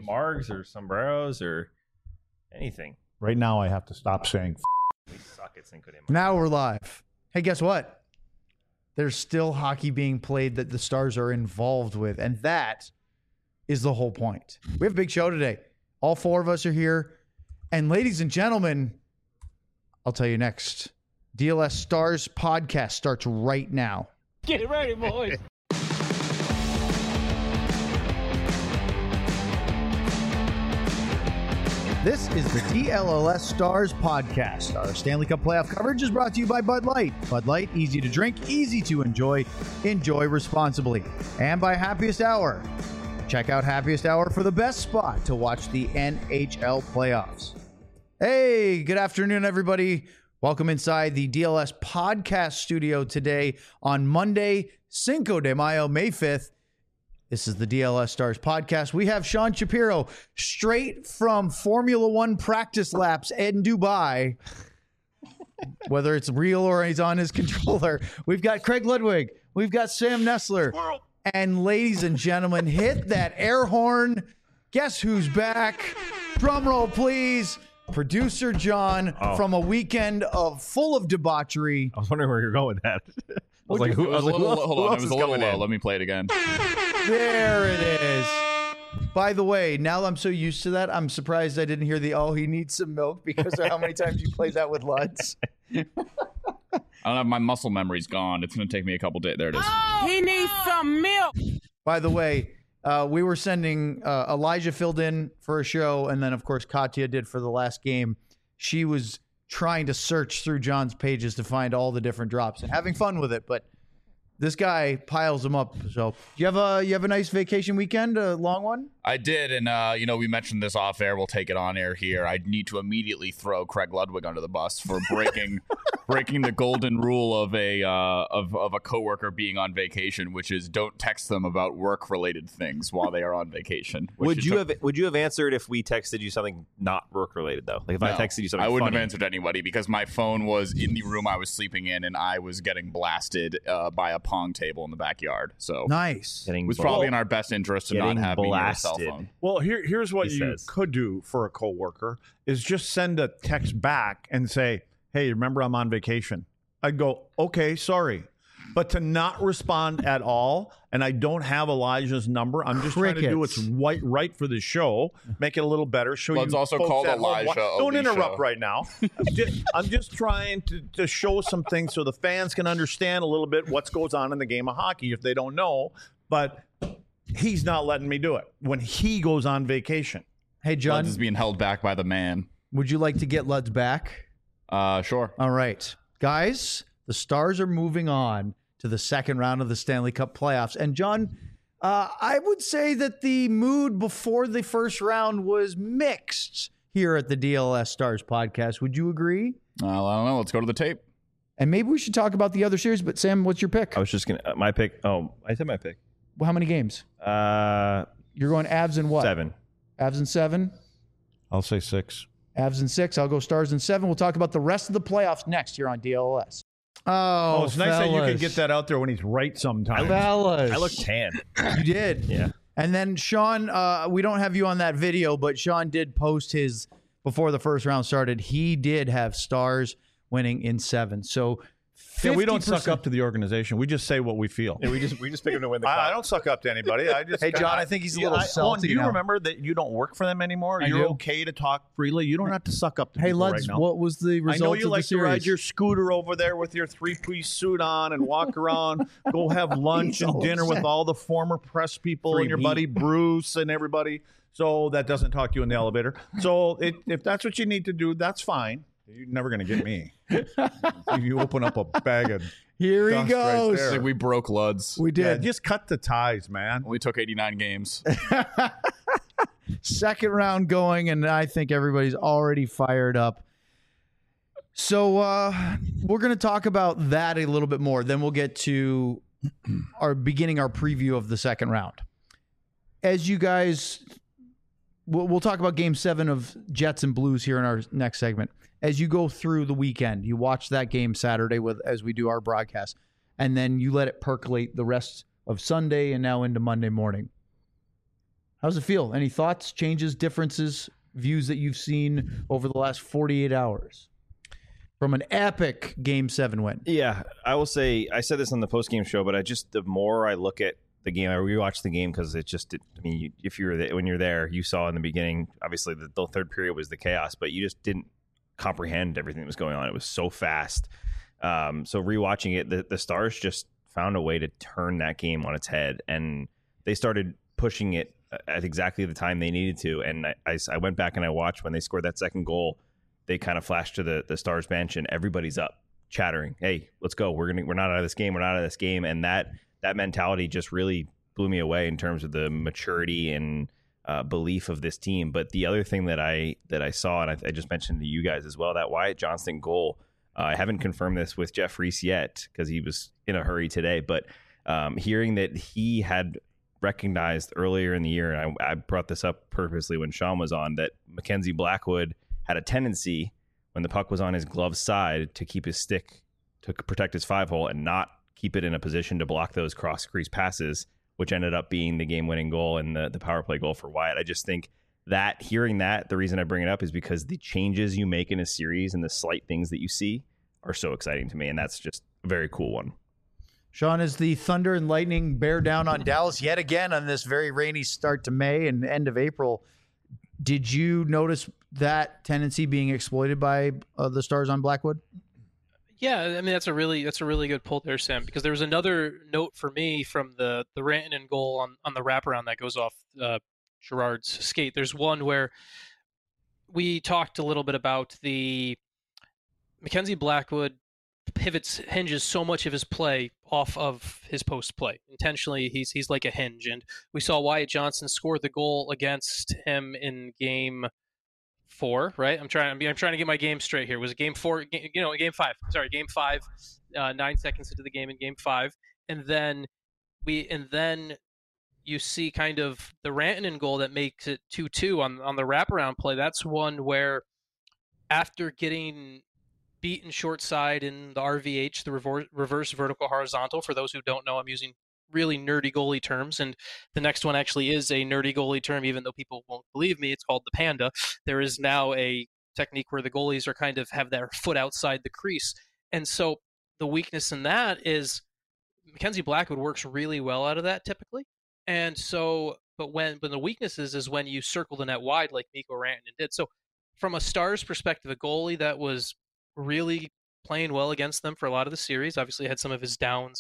margs or sombreros or anything. Right now, I have to stop saying. We suck at Cinco de Mayo. Now we're live. Hey, guess what? There's still hockey being played that the Stars are involved with, and that is the whole point. We have a big show today. All four of us are here. And ladies and gentlemen, I'll tell you next. DLS Stars podcast starts right now. Get ready, boys. This is the DLS Stars podcast. Our Stanley Cup playoff coverage is brought to you by Bud Light. Bud Light, easy to drink, easy to enjoy. Enjoy responsibly. And by Happiest Hour. Check out Happiest Hour for the best spot to watch the NHL playoffs. Hey, good afternoon, everybody. Welcome inside the DLS podcast studio today on Monday, Cinco de Mayo, May 5th. This is the DLS Stars podcast. We have Sean Shapiro straight from Formula One practice laps in Dubai. Whether it's real or he's on his controller. We've got Craig Ludwig. We've got Sam Nessler. And ladies and gentlemen, hit that air horn. Guess who's back? Drum roll, please. Producer John from a weekend full of debauchery. I was wondering where you're going with that. I was like, who else is coming in? Let me play it again. There it is. By the way, now that I'm so used to that, I'm surprised I didn't hear he needs some milk because of how many times you played that with Luds. I don't have my muscle memory's gone. It's going to take me a couple days. There it is. He needs some milk. By the way, we were sending Elijah filled in for a show, and then, of course, Katya did for the last game. She was trying to search through John's pages to find all the different drops and having fun with it, but this guy piles them up. So you have a nice vacation weekend, a long one? I did, and we mentioned this off air. We'll take it on air here. I need to immediately throw Craig Ludwig under the bus for breaking the golden rule of a coworker being on vacation, which is don't text them about work related things while they are on vacation. Would you have answered if we texted you something not work related though? Like if I texted you something, I wouldn't funny. have answered anybody because my phone was in the room I was sleeping in, and I was getting blasted by a pong table in the backyard. So nice. It was probably in our best interest to not have me near a cell phone. Well, here's what you could do for a coworker is just send a text back and say, hey, remember I'm on vacation. I'd go, okay, sorry. But to not respond at all, and I don't have Elijah's number. I'm just trying to do what's right for the show, make it a little better. Let's also call Elijah. Don't interrupt right now. I'm just trying to show some things so the fans can understand a little bit what goes on in the game of hockey if they don't know. But he's not letting me do it when he goes on vacation. Hey, John. Luds is being held back by the man. Would you like to get Luds back? Sure. All right. Guys, the Stars are moving on to the second round of the Stanley Cup playoffs. And, John, I would say that the mood before the first round was mixed here at the DLS Stars podcast. Would you agree? I don't know. Let's go to the tape. And maybe we should talk about the other series. But, Sam, what's your pick? I was just going to, my pick. Oh, I said my pick. Well, how many games? You're going Avs and what? 7. Avs and 7? I'll say 6. Avs and 6. I'll go Stars and 7. We'll talk about the rest of the playoffs next here on DLS. Oh, it's nice that you can get that out there when he's right sometimes. Fellas. I look tan. You did. Yeah. And then Sean, we don't have you on that video, but Sean did post his before the first round started. He did have Stars winning in 7. So 50%. Yeah, we don't suck up to the organization. We just say what we feel. Yeah, we just pick him to win the cup. I don't suck up to anybody. I just Hey, John, I think he's a little salty Do you now. remember that you don't work for them anymore? I You're do. okay to talk freely. You don't have to suck up to Hey, people Luds, right now. what was the result I know you of like the to ride series? your scooter over there with your 3-piece suit on and walk around, go have lunch and dinner with all the former press people Free and your meat. buddy Bruce and everybody. So that doesn't talk to you in the elevator. So if that's what you need to do, that's fine. You're never going to get me. If you open up a bag of Here he dust right goes. there. I think we broke Luds. We Yeah, did. just cut the ties, man. Only took 89 games. Second round going, and I think everybody's already fired up. So we're going to talk about that a little bit more. Then we'll get to our preview of the second round. As you guys, we'll talk about Game 7 of Jets and Blues here in our next segment. As you go through the weekend, you watch that game Saturday as we do our broadcast, and then you let it percolate the rest of Sunday and now into Monday morning. How's it feel? Any thoughts, changes, differences, views that you've seen over the last 48 hours from an epic Game 7 win? Yeah, I will say, I said this on the post-game show, but the more I look at the game, I rewatched the game because if you were there, when you're there, you saw in the beginning, obviously the third period was the chaos, but you just didn't comprehend everything that was going on. It was so fast. So rewatching it, the Stars just found a way to turn that game on its head, and they started pushing it at exactly the time they needed to. And I went back and I watched when they scored that second goal. They kind of flashed to the Stars bench, and everybody's up chattering, "Hey, let's go! We're not out of this game. We're not out of this game." And that mentality just really blew me away in terms of the maturity and belief of this team. But the other thing that I saw, and I just mentioned to you guys as well, that Wyatt Johnston goal. I haven't confirmed this with Jeff Reese yet because he was in a hurry today. But hearing that he had recognized earlier in the year, and I brought this up purposely when Sean was on, that Mackenzie Blackwood had a tendency when the puck was on his glove side to keep his stick to protect his 5-hole and not keep it in a position to block those cross crease passes, which ended up being the game-winning goal and the power play goal for Wyatt. I just think that hearing that, the reason I bring it up is because the changes you make in a series and the slight things that you see are so exciting to me, and that's just a very cool one. Sean, as the Thunder and Lightning bear down on Dallas yet again on this very rainy start to May and end of April, did you notice that tendency being exploited by the Stars on Blackwood? Yeah, I mean that's a really good pull there, Sam, because there was another note for me from the Rantanen goal on the wraparound that goes off Girard's skate. There's one where we talked a little bit about the Mackenzie Blackwood hinges so much of his play off of his post play. Intentionally, he's like a hinge, and we saw Wyatt Johnston score the goal against him in Game 4, right? I'm trying to get my game straight here. Was it Game 4? Game 5. Sorry, Game 5. 9 seconds into the game in Game 5, and then you see kind of the Rantanen goal that makes it 2-2 on the wraparound play. That's one where after getting beaten short side in the RVH, the reverse vertical horizontal. For those who don't know, I'm using really nerdy goalie terms, and the next one actually is a nerdy goalie term, even though people won't believe me. It's called the panda. There is now a technique where the goalies are kind of have their foot outside the crease, and so the weakness in that is Mackenzie Blackwood works really well out of that typically, and so but when the weakness is when you circle the net wide like Mikko Rantanen did. So from a Stars perspective, a goalie that was really playing well against them for a lot of the series. Obviously had some of his downs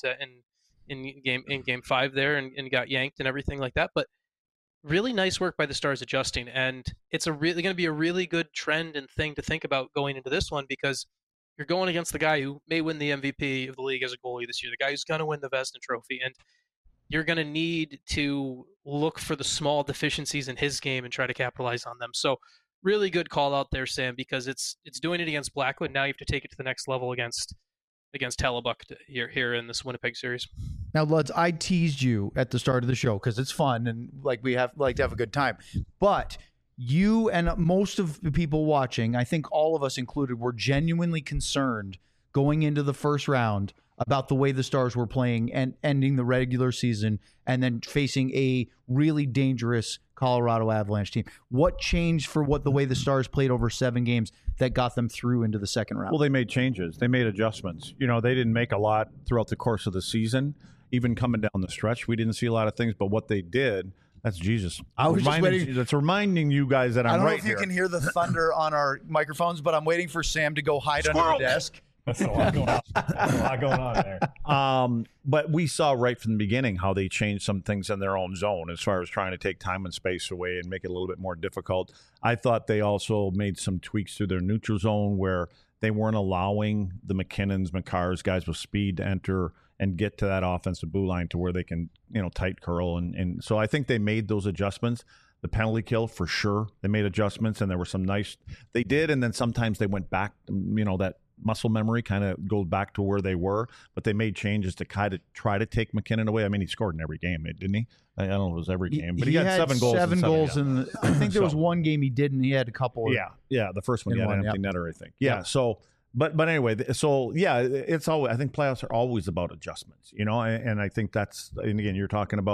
in game 5 there and got yanked and everything like that. But really nice work by the Stars adjusting. And it's going to be a really good trend and thing to think about going into this one, because you're going against the guy who may win the MVP of the league as a goalie this year, the guy who's going to win the Vezina Trophy. And you're going to need to look for the small deficiencies in his game and try to capitalize on them. So really good call out there, Sam, because it's doing it against Blackwood. Now you have to take it to the next level against Hellebuyck here in this Winnipeg series. Now, Luds, I teased you at the start of the show because it's fun and we like to have a good time. But you and most of the people watching, I think all of us included, were genuinely concerned going into the first round about the way the Stars were playing and ending the regular season and then facing a really dangerous Colorado Avalanche team. What changed for the way the Stars played over 7 games that got them through into the second round? Well, they made changes. They made adjustments. They didn't make a lot throughout the course of the season. Even coming down the stretch, we didn't see a lot of things, but what they did, that's Jesus. I was just waiting. That's reminding you guys that I'm right here. I don't know if you can hear the thunder on our microphones, but I'm waiting for Sam to go hide under the desk. That's a lot going on. That's a lot going on there. But we saw right from the beginning how they changed some things in their own zone as far as trying to take time and space away and make it a little bit more difficult. I thought they also made some tweaks to their neutral zone where they weren't allowing the McKinnons, Makars, guys with speed to enter and get to that offensive blue line to where they can, tight curl. And so I think they made those adjustments. The penalty kill, for sure, they made adjustments, and there were some nice – they did, and then sometimes they went back, that muscle memory kind of goes back to where they were, but they made changes to kind of try to take McKinnon away. I mean, he scored in every game, didn't he? I don't know if it was every game, but he had 7 goals. 7 goals, and I think there was one game he didn't. He had a couple. Yeah, the first one he had an empty netter, I think. Yeah, so but anyway, so yeah, it's always. I think playoffs are always about adjustments, and I think that's. And again, you're talking about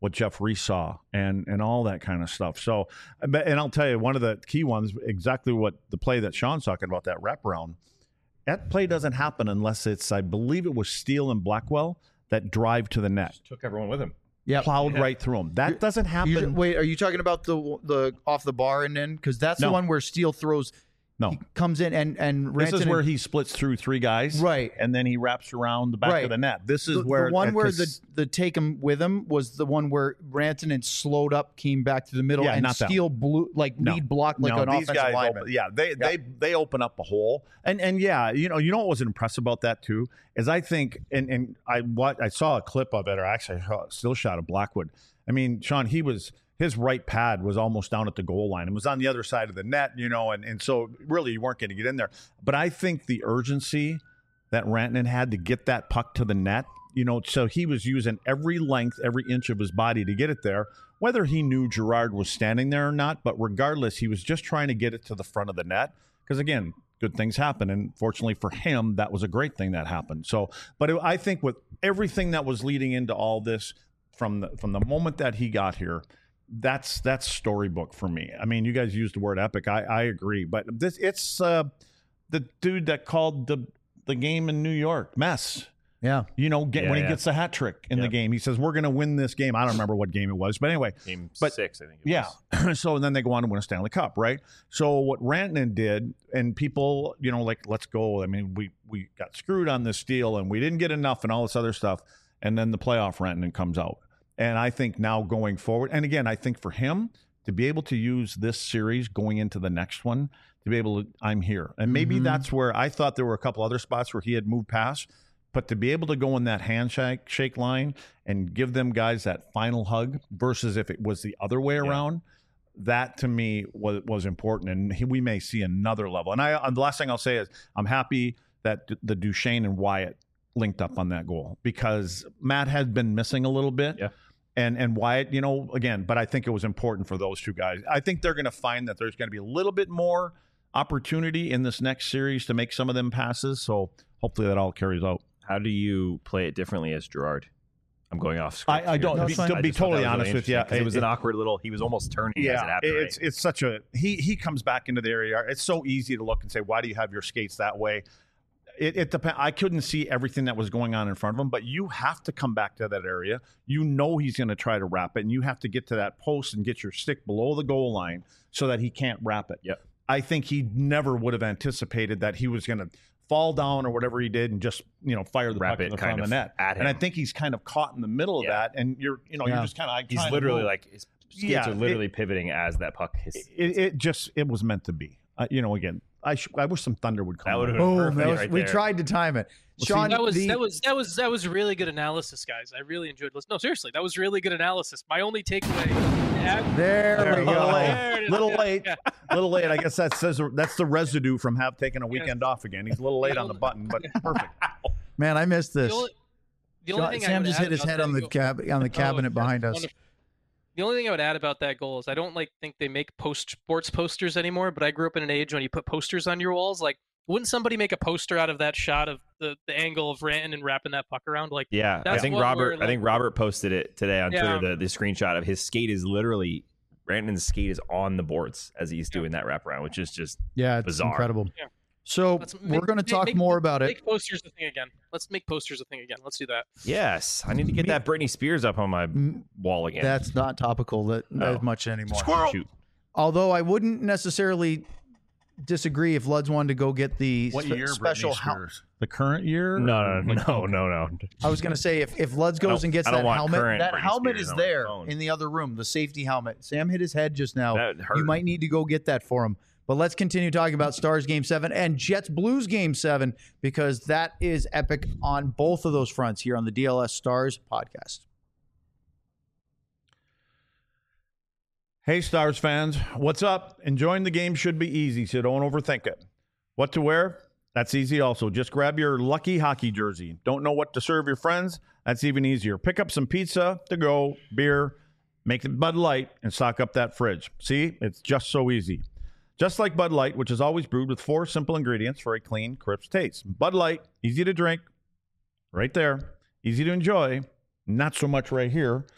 what Jeff Reese saw and all that kind of stuff. So, and I'll tell you, one of the key ones, exactly what the play that Sean's talking about, that wraparound, that play doesn't happen unless it's, I believe it was Steele and Blackwell that drive to the net. Just took everyone with him. Yeah, plowed right through them. That doesn't happen. Wait, are you talking about the off the bar and in? Because that's the one where Steele throws. No, he comes in and this is where he splits through three guys, right, and then he wraps around the back of the net. This is where the one where the take him with him was the one where Rantanen slowed up, came back to the middle, and Steele blew lead blocked like an offensive lineman. They open up a hole, and you know what was impressive about that too is I think and I saw a clip of it, or actually I saw a still shot of Blackwood. I mean, Sean, his right pad was almost down at the goal line. It was on the other side of the net, you know, and so really you weren't going to get in there. But I think the urgency that Rantanen had to get that puck to the net, you know, so he was using every length, every inch of his body to get it there, whether he knew Girard was standing there or not. But regardless, he was just trying to get it to the front of the net because, again, good things happen. And fortunately for him, that was a great thing that happened. So, but I think with everything that was leading into all this from the moment that he got here, that's storybook for me. I mean, you guys used the word epic. I agree, but it's the dude that called the game in New York mess. Yeah, you know, when he gets a hat trick in the game, he says we're going to win this game. I don't remember what game it was, but anyway, game 6, I think. So then they go on to win a Stanley Cup, right? So what Rantanen did, and people, you know, like, let's go. I mean, we got screwed on this deal, and we didn't get enough, and all this other stuff, and then the playoff Rantanen comes out. And I think now going forward, and again, I think for him to be able to use this series going into the next one, to be able to, I'm here. And maybe that's where I thought there were a couple other spots where he had moved past, but to be able to go in that handshake line and give them guys that final hug versus if it was the other way around, that to me was important. And we may see another level. And the last thing I'll say is I'm happy that the Duchesne and Wyatt linked up on that goal because Matt had been missing a little bit. Yeah. And Wyatt, you know, again, but I think it was important for those two guys. I think they're going to find that there's going to be a little bit more opportunity in this next series to make some of them passes. So hopefully that all carries out. How do you play it differently as Girard? I'm going off script. I don't. To be totally honest with you, it was an awkward little. He was almost turning. as it happened. It's such a he comes back into the area. It's so easy to look and say, why do you have your skates that way? It depends. I couldn't see everything that was going on in front of him, but you have to come back to that area. You know he's going to try to wrap it, and you have to get to that post and get your stick below the goal line so that he can't wrap it. Yep. I think he never would have anticipated that he was going to fall down or whatever he did and just, you know, fire the puck in the front of the net. And I think he's kind of caught in the middle of that, and you're just kind of he's literally like his skates are literally pivoting as that puck hits. It was meant to be. You know, again. I wish some thunder would come. That would have been perfect. We tried to time it. Sean, that was really good analysis, guys. I really enjoyed listening. No, seriously, that was really good analysis. My only takeaway. There we go. Little late. I guess that's the residue from taking a weekend off again. He's a little late on the button, but perfect. Man, I missed this. The only thing Sam just hit his head on the cabinet behind us. Wonderful. The only thing I would add about that goal is I don't think they make sports posters anymore, but I grew up in an age when you put posters on your walls. Like, wouldn't somebody make a poster out of that shot of the angle of Rantanen and wrapping that puck around? Like, I think Robert posted it today on Twitter. The screenshot of his skate is literally Rantanen's skate is on the boards as he's doing that wraparound, which is just it's bizarre. Incredible. Yeah. So we're going to talk more about it. Make posters a thing again. Let's make posters a thing again. Let's do that. Yes, I need to get that Britney Spears up on my wall again. That's not topical as much anymore. Squirrel. Shoot. Although I wouldn't necessarily disagree if Luds wanted to go get the special helmet. The current year? No. I was going to say if Luds goes and gets that helmet, that helmet is there in the other room, the safety helmet. Sam hit his head just now. You might need to go get that for him. But let's continue talking about Stars Game 7 and Jets Blues Game 7 because that is epic on both of those fronts here on the DLS Stars podcast. Hey, Stars fans. What's up? Enjoying the game should be easy, so don't overthink it. What to wear? That's easy also. Just grab your lucky hockey jersey. Don't know what to serve your friends? That's even easier. Pick up some pizza, to-go, beer, make it Bud Light, and stock up that fridge. See? It's just so easy. Just like Bud Light, which is always brewed with 4 simple ingredients for a clean, crisp taste. Bud Light, easy to drink, right there. Easy to enjoy, not so much right here.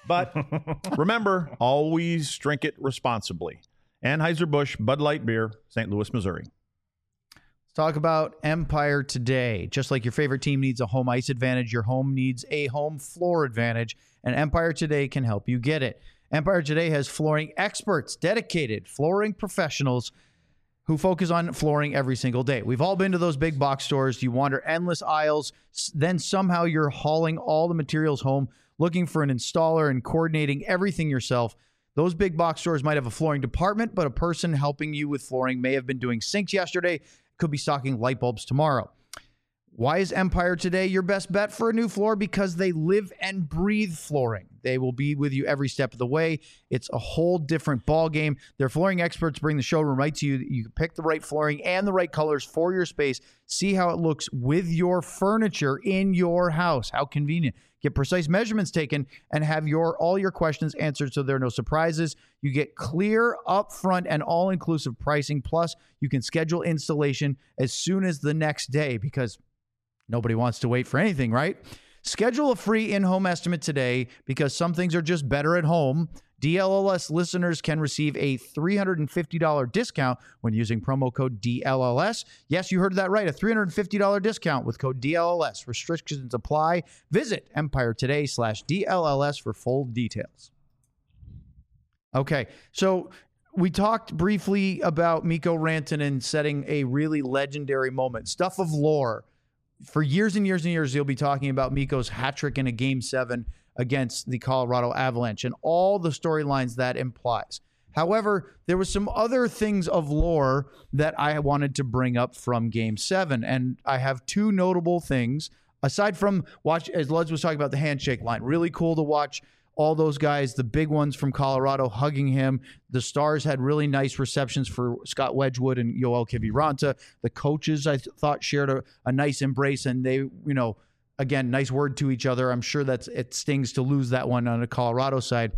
But remember, always drink it responsibly. Anheuser-Busch Bud Light Beer, St. Louis, Missouri. Let's talk about Empire Today. Just like your favorite team needs a home ice advantage, your home needs a home floor advantage, and Empire Today can help you get it. Empire Today has flooring experts, dedicated flooring professionals who focus on flooring every single day. We've all been to those big box stores. You wander endless aisles, then somehow you're hauling all the materials home, looking for an installer and coordinating everything yourself. Those big box stores might have a flooring department, but a person helping you with flooring may have been doing sinks yesterday, could be stocking light bulbs tomorrow. Why is Empire Today your best bet for a new floor? Because they live and breathe flooring. They will be with you every step of the way. It's a whole different ball game. Their flooring experts bring the showroom right to you. You can pick the right flooring and the right colors for your space. See how it looks with your furniture in your house. How convenient. Get precise measurements taken and have all your questions answered so there are no surprises. You get clear, upfront, and all-inclusive pricing. Plus, you can schedule installation as soon as the next day because nobody wants to wait for anything, right? Schedule a free in-home estimate today because some things are just better at home. DLLS listeners can receive a $350 discount when using promo code DLLS. Yes, you heard that right, a $350 discount with code DLLS. Restrictions apply. Visit EmpireToday.com/DLLS for full details. Okay, so we talked briefly about Mikko Rantanen setting a really legendary moment, stuff of lore. For years and years and years, you'll be talking about Mikko's hat trick in a Game 7 against the Colorado Avalanche and all the storylines that implies. However, there was some other things of lore that I wanted to bring up from Game 7, and I have two notable things. Aside from as Luds was talking about the handshake line, really cool to watch all those guys, the big ones from Colorado, hugging him. The Stars had really nice receptions for Scott Wedgwood and Yoel Kiviranta. The coaches, I thought, shared a nice embrace, and they, again, nice word to each other. I'm sure it stings to lose that one on the Colorado side.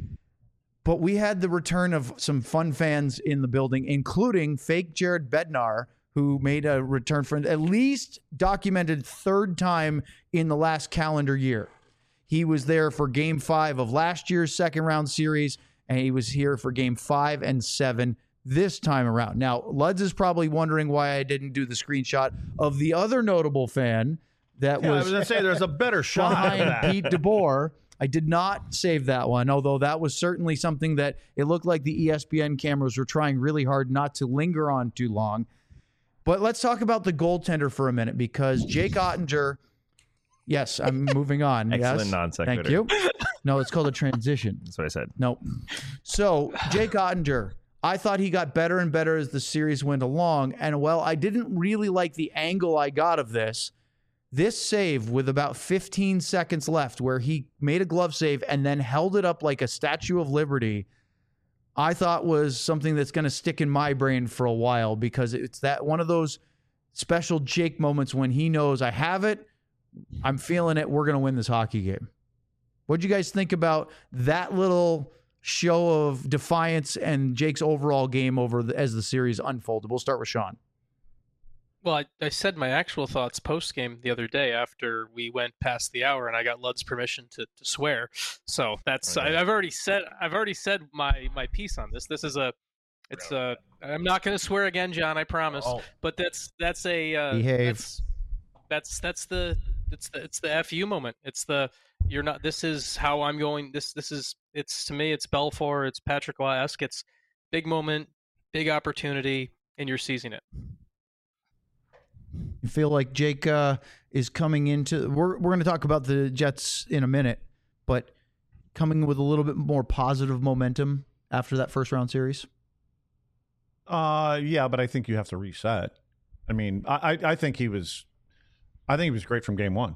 But we had the return of some fun fans in the building, including fake Jared Bednar, who made a return for at least documented third time in the last calendar year. He was there for Game 5 of last year's second-round series, and he was here for Game 5 and 7 this time around. Now, Luds is probably wondering why I didn't do the screenshot of the other notable fan that was... I was going to say, there's a better shot behind of that. Pete DeBoer. I did not save that one, although that was certainly something that it looked like the ESPN cameras were trying really hard not to linger on too long. But let's talk about the goaltender for a minute, because Jake Ottinger... Yes, I'm moving on. Excellent yes. non sequitur. Thank you. No, it's called a transition. That's what I said. No. So, Jake Ottinger, I thought he got better and better as the series went along. And, well, I didn't really like the angle I got of this. This save with about 15 seconds left where he made a glove save and then held it up like a Statue of Liberty, I thought was something that's going to stick in my brain for a while, because it's that one of those special Jake moments when he knows I have it. I'm feeling it. We're going to win this hockey game. What'd you guys think about that little show of defiance and Jake's overall game as the series unfolded? We'll start with Sean. Well, I said my actual thoughts post-game the other day after we went past the hour, and I got Lud's permission to swear. So that's I've already said my piece on this. This is I'm not going to swear again, John. I promise. Oh. But that's a behave. That's the FU moment. It's the you're not. This is how I'm going. This is it's to me. It's Belfour. It's Patrick Lask. It's big moment, big opportunity, and you're seizing it. You feel like Jake is coming into. We're going to talk about the Jets in a minute, but coming with a little bit more positive momentum after that first round series. Yeah, but I think you have to reset. I mean, I think he was. I think he was great from game one.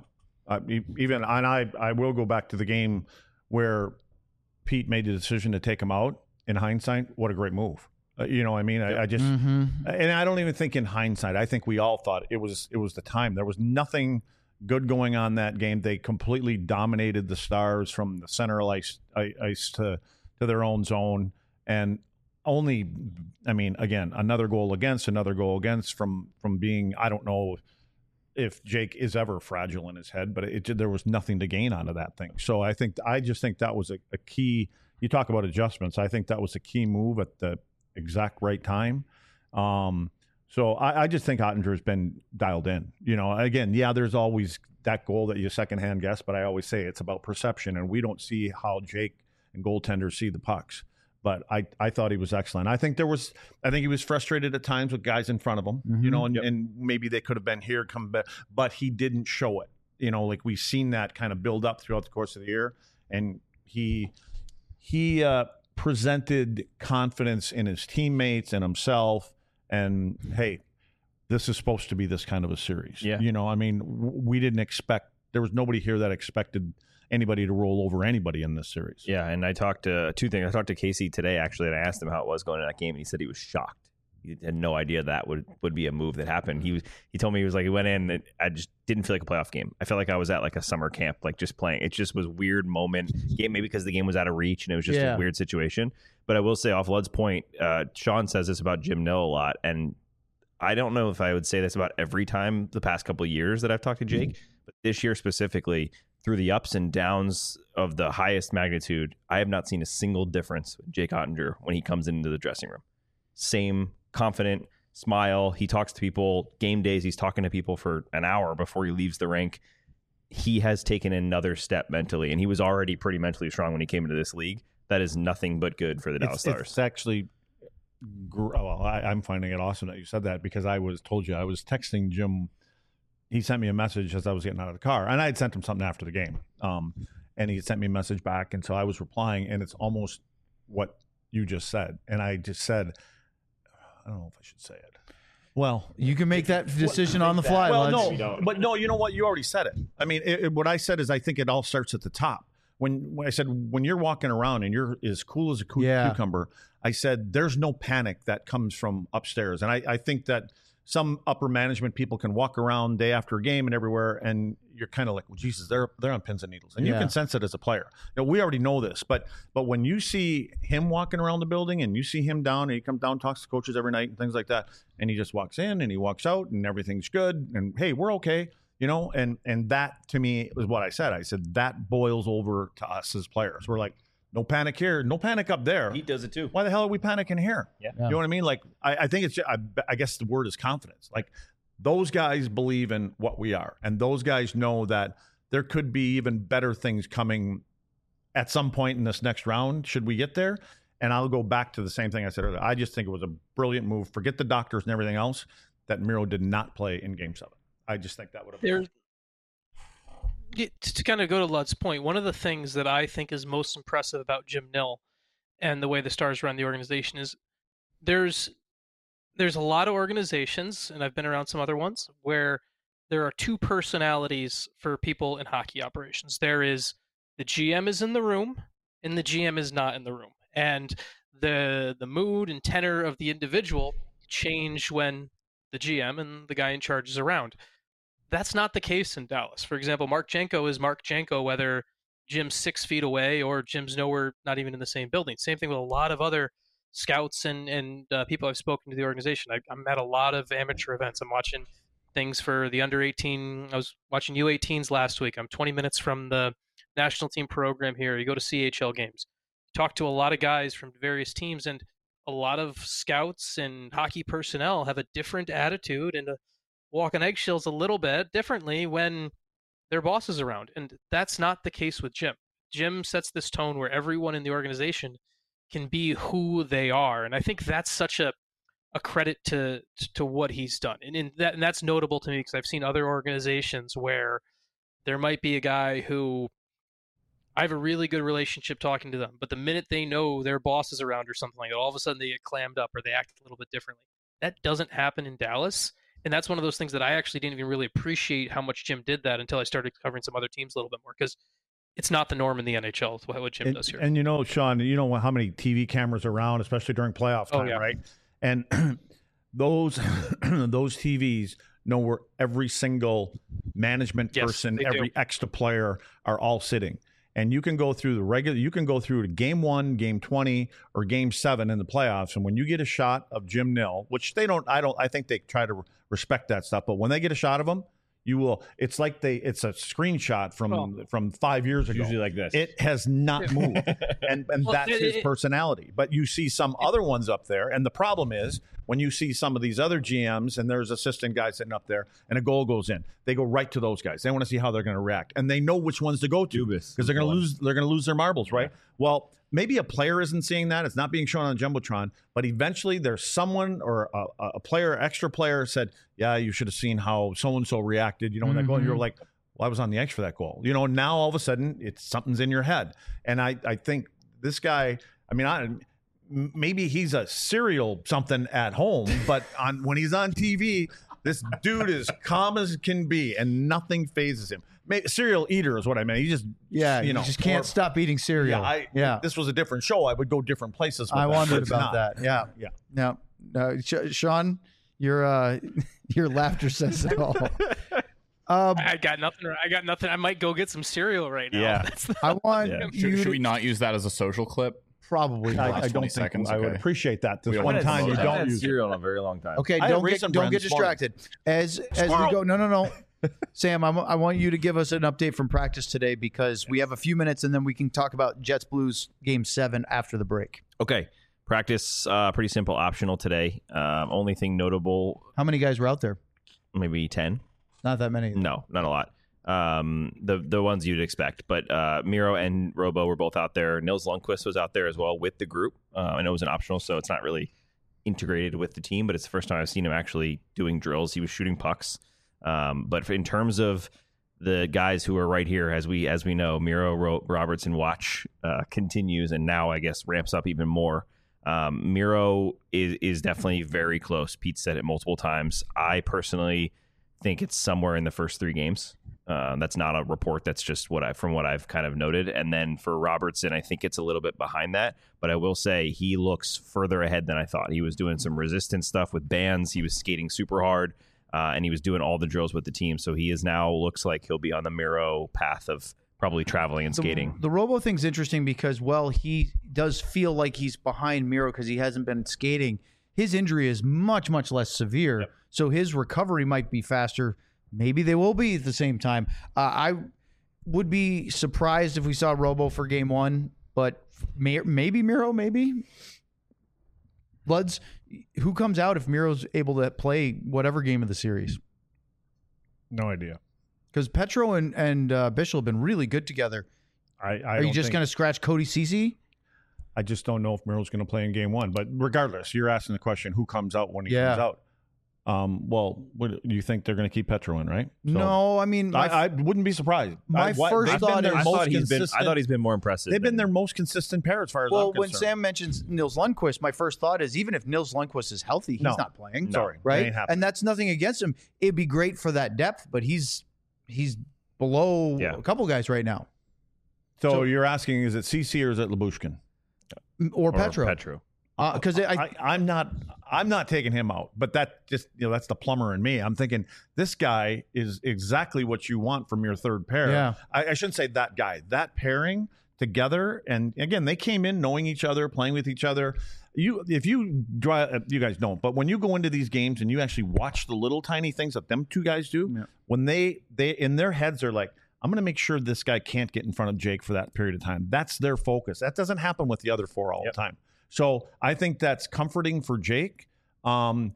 I will go back to the game where Pete made the decision to take him out. In hindsight, what a great move. You know what I mean? I just and I don't even think in hindsight. I think we all thought it was the time. There was nothing good going on that game. They completely dominated the Stars from the center ice to their own zone, and only, I mean, again, another goal against from being, I don't know, if Jake is ever fragile in his head, but there was nothing to gain out of that thing. So I just think that was a key. You talk about adjustments. I think that was a key move at the exact right time. So I just think Oettinger's been dialed in. Again, there's always that goal that you secondhand guess, but I always say it's about perception, and we don't see how Jake and goaltenders see the pucks. But I thought he was excellent. I think he was frustrated at times with guys in front of him, and maybe they could have been here, come back, but he didn't show it. Like we've seen that kind of build up throughout the course of the year, and he presented confidence in his teammates and himself. And hey, this is supposed to be this kind of a series. Yeah. We didn't expect. There was nobody here that expected anybody to roll over anybody in this series. Yeah, and I talked to two things. I talked to Casey today, actually, and I asked him how it was going in that game, and he said he was shocked. He had no idea that would be a move that happened. He told me he was like, he went in, and I just didn't feel like a playoff game. I felt like I was at like a summer camp, like just playing. It just was a weird moment. Maybe because the game was out of reach, and it was just a weird situation. But I will say, off Lud's point, Sean says this about Jim Nill a lot, and I don't know if I would say this about every time the past couple of years that I've talked to Jake, but this year specifically, through the ups and downs of the highest magnitude, I have not seen a single difference with Jake Oettinger when he comes into the dressing room. Same confident smile. He talks to people. Game days, he's talking to people for an hour before he leaves the rink. He has taken another step mentally, and he was already pretty mentally strong when he came into this league. That is nothing but good for the Dallas Stars. It's actually, I'm finding it awesome that you said that, because I was texting Jim. He sent me a message as I was getting out of the car, and I had sent him something after the game. And he sent me a message back, and so I was replying, and it's almost what you just said. And I just said, I don't know if I should say it. Well, you can make that decision on the fly. Well, no, you know what? You already said it. I mean, what I said is I think it all starts at the top. When I said, when you're walking around and you're as cool as a cucumber, I said, there's no panic that comes from upstairs. And I think that some upper management people can walk around day after a game and everywhere, and you're kind of like, well, Jesus, they're on pins and needles. And you can sense it as a player. We already know this, but when you see him walking around the building and you see him down, and he comes down, talks to coaches every night and things like that, and he just walks in and he walks out and everything's good, and hey, we're okay. And that to me was what I said. I said that boils over to us as players. We're like, no panic here, no panic up there. He does it too. Why the hell are we panicking here? Yeah. You know what I mean? Like, I think it's, I guess the word is confidence. Like, those guys believe in what we are, and those guys know that there could be even better things coming at some point in this next round, should we get there. And I'll go back to the same thing I said earlier. I just think it was a brilliant move. Forget the doctors and everything else, that Miro did not play in Game 7. I just think that would have been. To kind of go to Lud's point, one of the things that I think is most impressive about Jim Nill and the way the Stars run the organization is there's a lot of organizations, and I've been around some other ones, where there are two personalities for people in hockey operations. There is the GM is in the room, and the GM is not in the room. And the mood and tenor of the individual change when the GM and the guy in charge is around. That's not the case in Dallas. For example, Mark Janko is Mark Janko, whether Jim's 6 feet away or Jim's nowhere, not even in the same building. Same thing with a lot of other scouts and people I've spoken to the organization. I'm at a lot of amateur events. I'm watching things for the under 18. I was watching U18s last week. I'm 20 minutes from the national team program here. You go to CHL games. Talk to a lot of guys from various teams, and a lot of scouts and hockey personnel have a different attitude and walk on eggshells a little bit differently when their boss is around. And that's not the case with Jim. Jim sets this tone where everyone in the organization can be who they are. And I think that's such a credit to what he's done. And that's notable to me because I've seen other organizations where there might be a guy who I have a really good relationship talking to them, but the minute they know their boss is around or something like that, all of a sudden they get clammed up or they act a little bit differently. That doesn't happen in Dallas. And that's one of those things that I actually didn't even really appreciate how much Jim did that until I started covering some other teams a little bit more, because it's not the norm in the NHL what Jim does here. And Sean, you know how many TV cameras are around, especially during playoff time, right? And those TVs know where every single management person, every extra player are all sitting. And you can go through to game 1, game 20, or game 7 in the playoffs. And when you get a shot of Jim Nill, which I think they try to respect that stuff, but when they get a shot of him, you will. It's like it's a screenshot from 5 years ago. Usually like this. It has not moved, and that's his personality. But you see some other ones up there, and the problem is when you see some of these other GMs and there's assistant guys sitting up there, and a goal goes in, they go right to those guys. They want to see how they're going to react, and they know which ones to go to because they're going to lose. They're going to lose their marbles, right? Yeah. Well, maybe a player isn't seeing that. It's not being shown on Jumbotron, but eventually there's someone or a player, extra player said, yeah, you should have seen how so-and-so reacted, when that goal. And you're like, well, I was on the edge for that goal. Now all of a sudden something's in your head. And I think this guy, maybe he's a serial something at home, but when he's on TV, this dude is calm as can be and nothing phases him. Cereal eater is what I meant. He just you just can't stop eating cereal. If this was a different show, I would go different places. I wondered about that. Yeah. No, Sean, your laughter says it all. I got nothing. I might go get some cereal right now. Yeah. I want. Should we not use that as a social clip? Probably not. I don't think I would appreciate that. This one time you don't use cereal in a very long time. Okay, don't get distracted. As we go, no. Sam, I want you to give us an update from practice today because we have a few minutes and then we can talk about Jets Blues Game 7 after the break. Okay. Practice, pretty simple, optional today. Only thing notable. How many guys were out there? Maybe 10. Not that many. No, not a lot. The ones you'd expect. But Miro and Robo were both out there. Nils Lundqvist was out there as well with the group. I know it was an optional, so it's not really integrated with the team, but it's the first time I've seen him actually doing drills. He was shooting pucks. But in terms of the guys who are right here, as we know, Miro Robertson watch continues and now I guess ramps up even more. Miro is definitely very close. Pete said it multiple times. I personally think it's somewhere in the first 3 games. That's not a report. That's just from what I've kind of noted. And then for Robertson, I think it's a little bit behind that. But I will say he looks further ahead than I thought. He was doing some resistance stuff with bands. He was skating super hard. And he was doing all the drills with the team. So he is now, looks like he'll be on the Miro path of probably traveling and skating. The Robo thing's interesting because, he does feel like he's behind Miro because he hasn't been skating. His injury is much, much less severe. Yep. So his recovery might be faster. Maybe they will be at the same time. I would be surprised if we saw Robo for Game 1, but maybe Miro, maybe. Bloods, who comes out if Miro's able to play whatever game of the series? No idea. Because Petro and Bishop have been really good together. Are you just going to scratch Cody Ceci? I just don't know if Miro's going to play in Game 1. But regardless, you're asking the question, who comes out when he comes out? What do you think they're going to keep Petro in, right? So, no, I wouldn't be surprised. My first thought is I thought he's been more impressive. They've been their most consistent pair as far as I'm concerned. When Sam mentions Nils Lundqvist, my first thought is even if Nils Lundqvist is healthy, he's not playing. Sorry, right? And that's nothing against him. It'd be great for that depth, but he's below a couple guys right now. So you're asking, is it CC or is it Lyubushkin? Or Petro? Petro. Because I'm not taking him out, but that just that's the plumber in me. I'm thinking this guy is exactly what you want from your third pair. Yeah. I shouldn't say that guy. That pairing together, and again, they came in knowing each other, playing with each other. You guys don't, but when you go into these games and you actually watch the little tiny things that them two guys do, when they in their heads are like, I'm going to make sure this guy can't get in front of Jake for that period of time. That's their focus. That doesn't happen with the other 4 all the time. So I think that's comforting for Jake. And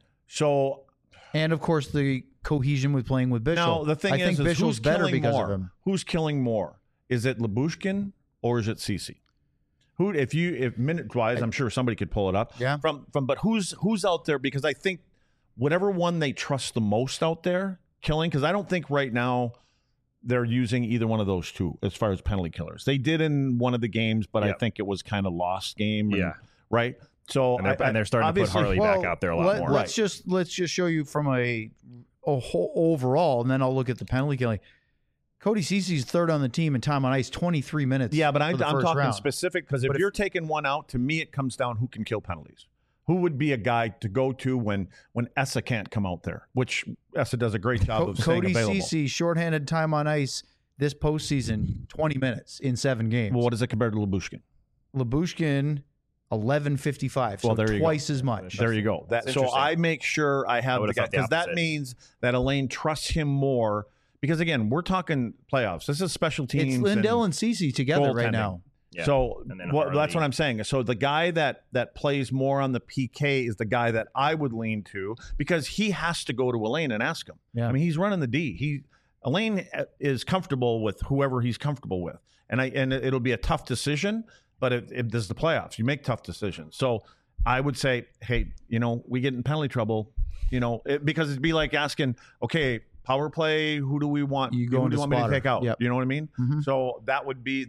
of course the cohesion with playing with Bishop. Now the thing I think Bishop's who's better killing because more? of him. Who's killing more? Is it Lyubushkin or is it Ceci? Who, if minute wise, I'm sure somebody could pull it up. Yeah. But who's out there? Because I think whatever one they trust the most out there killing. Because I don't think right now they're using either one of those two as far as penalty killers. They did in one of the games, but I think it was kind of lost game. Right. So and they're starting to put Harley back out there a lot more. Let's just show you from a whole overall, and then I'll look at the penalty killing. Cody Ceci's third on the team in time on ice, 23 minutes. Yeah, but I'm talking round. specific because if you're taking one out, to me it comes down who can kill penalties. Who would be a guy to go to when Essa can't come out there, which Essa does a great job of staying available. Cody Ceci, shorthanded time on ice this postseason, 20 minutes in 7 games. Well, what is it compared to Lyubushkin? Lyubushkin, 11:55, so twice as much. There you go. So I make sure I have the guy because that means that Elaine trusts him more because again, we're talking playoffs. This is special teams. It's Lindell and Cece together right now. Yeah. So that's what I'm saying. So the guy that plays more on the PK is the guy that I would lean to, because he has to go to Elaine and ask him. Yeah. I mean, he's running the D. Elaine is comfortable with whoever he's comfortable with, and it'll be a tough decision, but it does the playoffs. You make tough decisions. So I would say, hey, we get in penalty trouble, because it'd be like asking, okay, power play, who do we want? Who do you want me to take out? Yep. You know what I mean? Mm-hmm. So that would be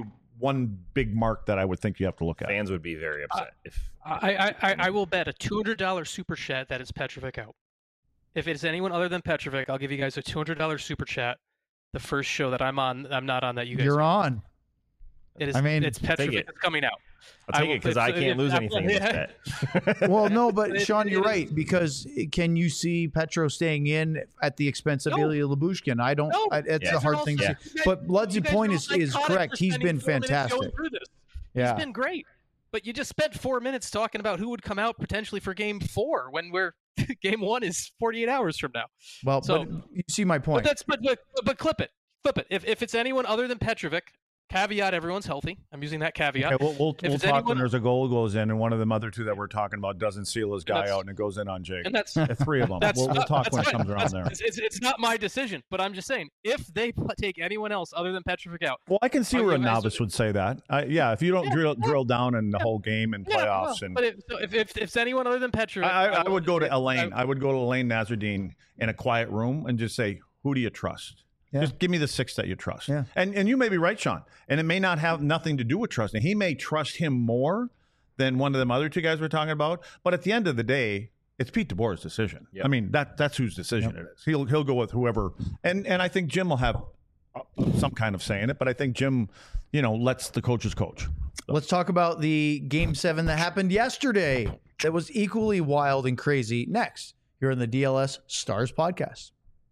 one big mark that I would think you have to look at. Fans would be very upset if I will bet a $200 super chat that it's Petrovic out. If it's anyone other than Petrovic, I'll give you guys a $200 super chat. The first show that I'm not on that you guys. You're on. It is. I mean, it's Petrovic that's coming out. I'll take it because I can't lose anything in this bet. Well, no, but Sean, you're right, because can you see Petro staying in at the expense of Ilya Lyubushkin? I don't. No. It's a hard thing to see. But Lud's point is correct. He's been fantastic. Yeah. He's been great. But you just spent 4 minutes talking about who would come out potentially for Game 4 when Game 1 is 48 hours from now. Well, so, but you see my point. But clip it. Flip it. If it's anyone other than Petrovic, caveat, everyone's healthy. I'm using that caveat. Okay, we'll talk when there's a goal goes in, and one of the other two that we're talking about doesn't seal his guy out, and it goes in on Jake. And that's three of them. We'll talk when it comes around there. It's not my decision, but I'm just saying, if they take anyone else other than Petrovic out. Well, I can see where a novice would say that. If you don't drill down in the whole game and playoffs. But if it's anyone other than Petrovic. I would go to Elaine. I would go to Elaine Nasruddin in a quiet room and just say, who do you trust? Yeah. Just give me the 6 that you trust. Yeah. And you may be right, Sean. And it may not have nothing to do with trusting. He may trust him more than one of them other two guys we're talking about. But at the end of the day, it's Pete DeBoer's decision. Yep. I mean, that's whose decision it is. He'll go with whoever. And I think Jim will have some kind of say in it. But I think Jim, lets the coaches coach. So. Let's talk about the Game 7 that happened yesterday. That was equally wild and crazy. Next, here on the DLS Stars podcast.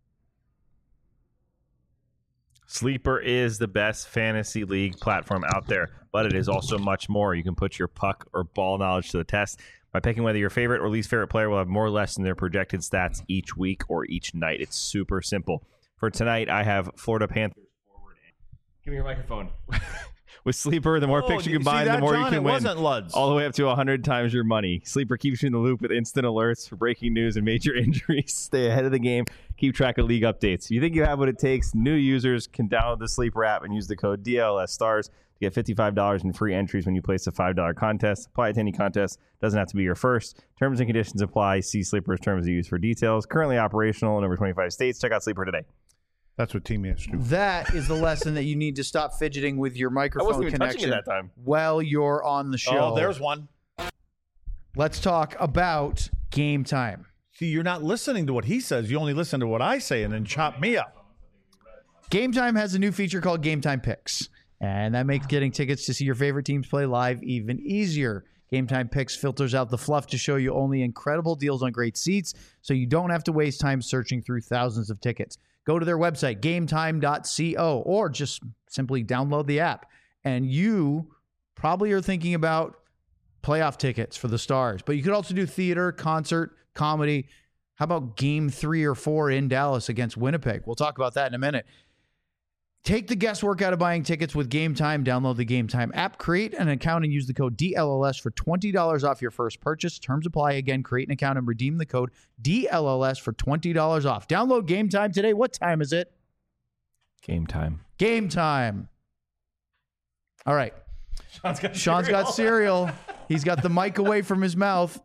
Sleeper is the best fantasy league platform out there, but it is also much more. You can put your puck or ball knowledge to the test by picking whether your favorite or least favorite player will have more or less than their projected stats each week or each night. It's super simple. For tonight, I have Florida Panthers forward. Give me your microphone. With Sleeper, the more picks you combine, the more you can win. It wasn't Luds. All the way up to 100 times your money. Sleeper keeps you in the loop with instant alerts for breaking news and major injuries. Stay ahead of the game. Keep track of league updates. If you think you have what it takes, new users can download the Sleeper app and use the code DLSSTARS to get $55 in free entries when you place a $5 contest. Apply to any contest. Doesn't have to be your first. Terms and conditions apply. See Sleeper's terms of use for details. Currently operational in over 25 states. Check out Sleeper today. That's what Team is do. That is the lesson that you need to stop fidgeting with your microphone connection that time. while you're on the show. Oh, there's one. Let's talk about Game Time. See, you're not listening to what he says. You only listen to what I say and then chop me up. Game Time has a new feature called Game Time Picks, and that makes getting tickets to see your favorite teams play live even easier. Game Time Picks filters out the fluff to show you only incredible deals on great seats, so you don't have to waste time searching through thousands of tickets. Go to their website, gametime.co, or just simply download the app. And you probably are thinking about playoff tickets for the Stars, but you could also do theater, concert, comedy. How about Game 3 or 4 in Dallas against Winnipeg? We'll talk about that in a minute. Take the guesswork out of buying tickets with Game Time. Download the Game Time app, create an account, and use the code DLLS for $20 off your first purchase. Terms apply. Again, create an account and redeem the code DLLS for $20 off. Download Game Time today. What time is it? Game time. Game time. All right. Sean's got cereal. He's got the mic away from his mouth.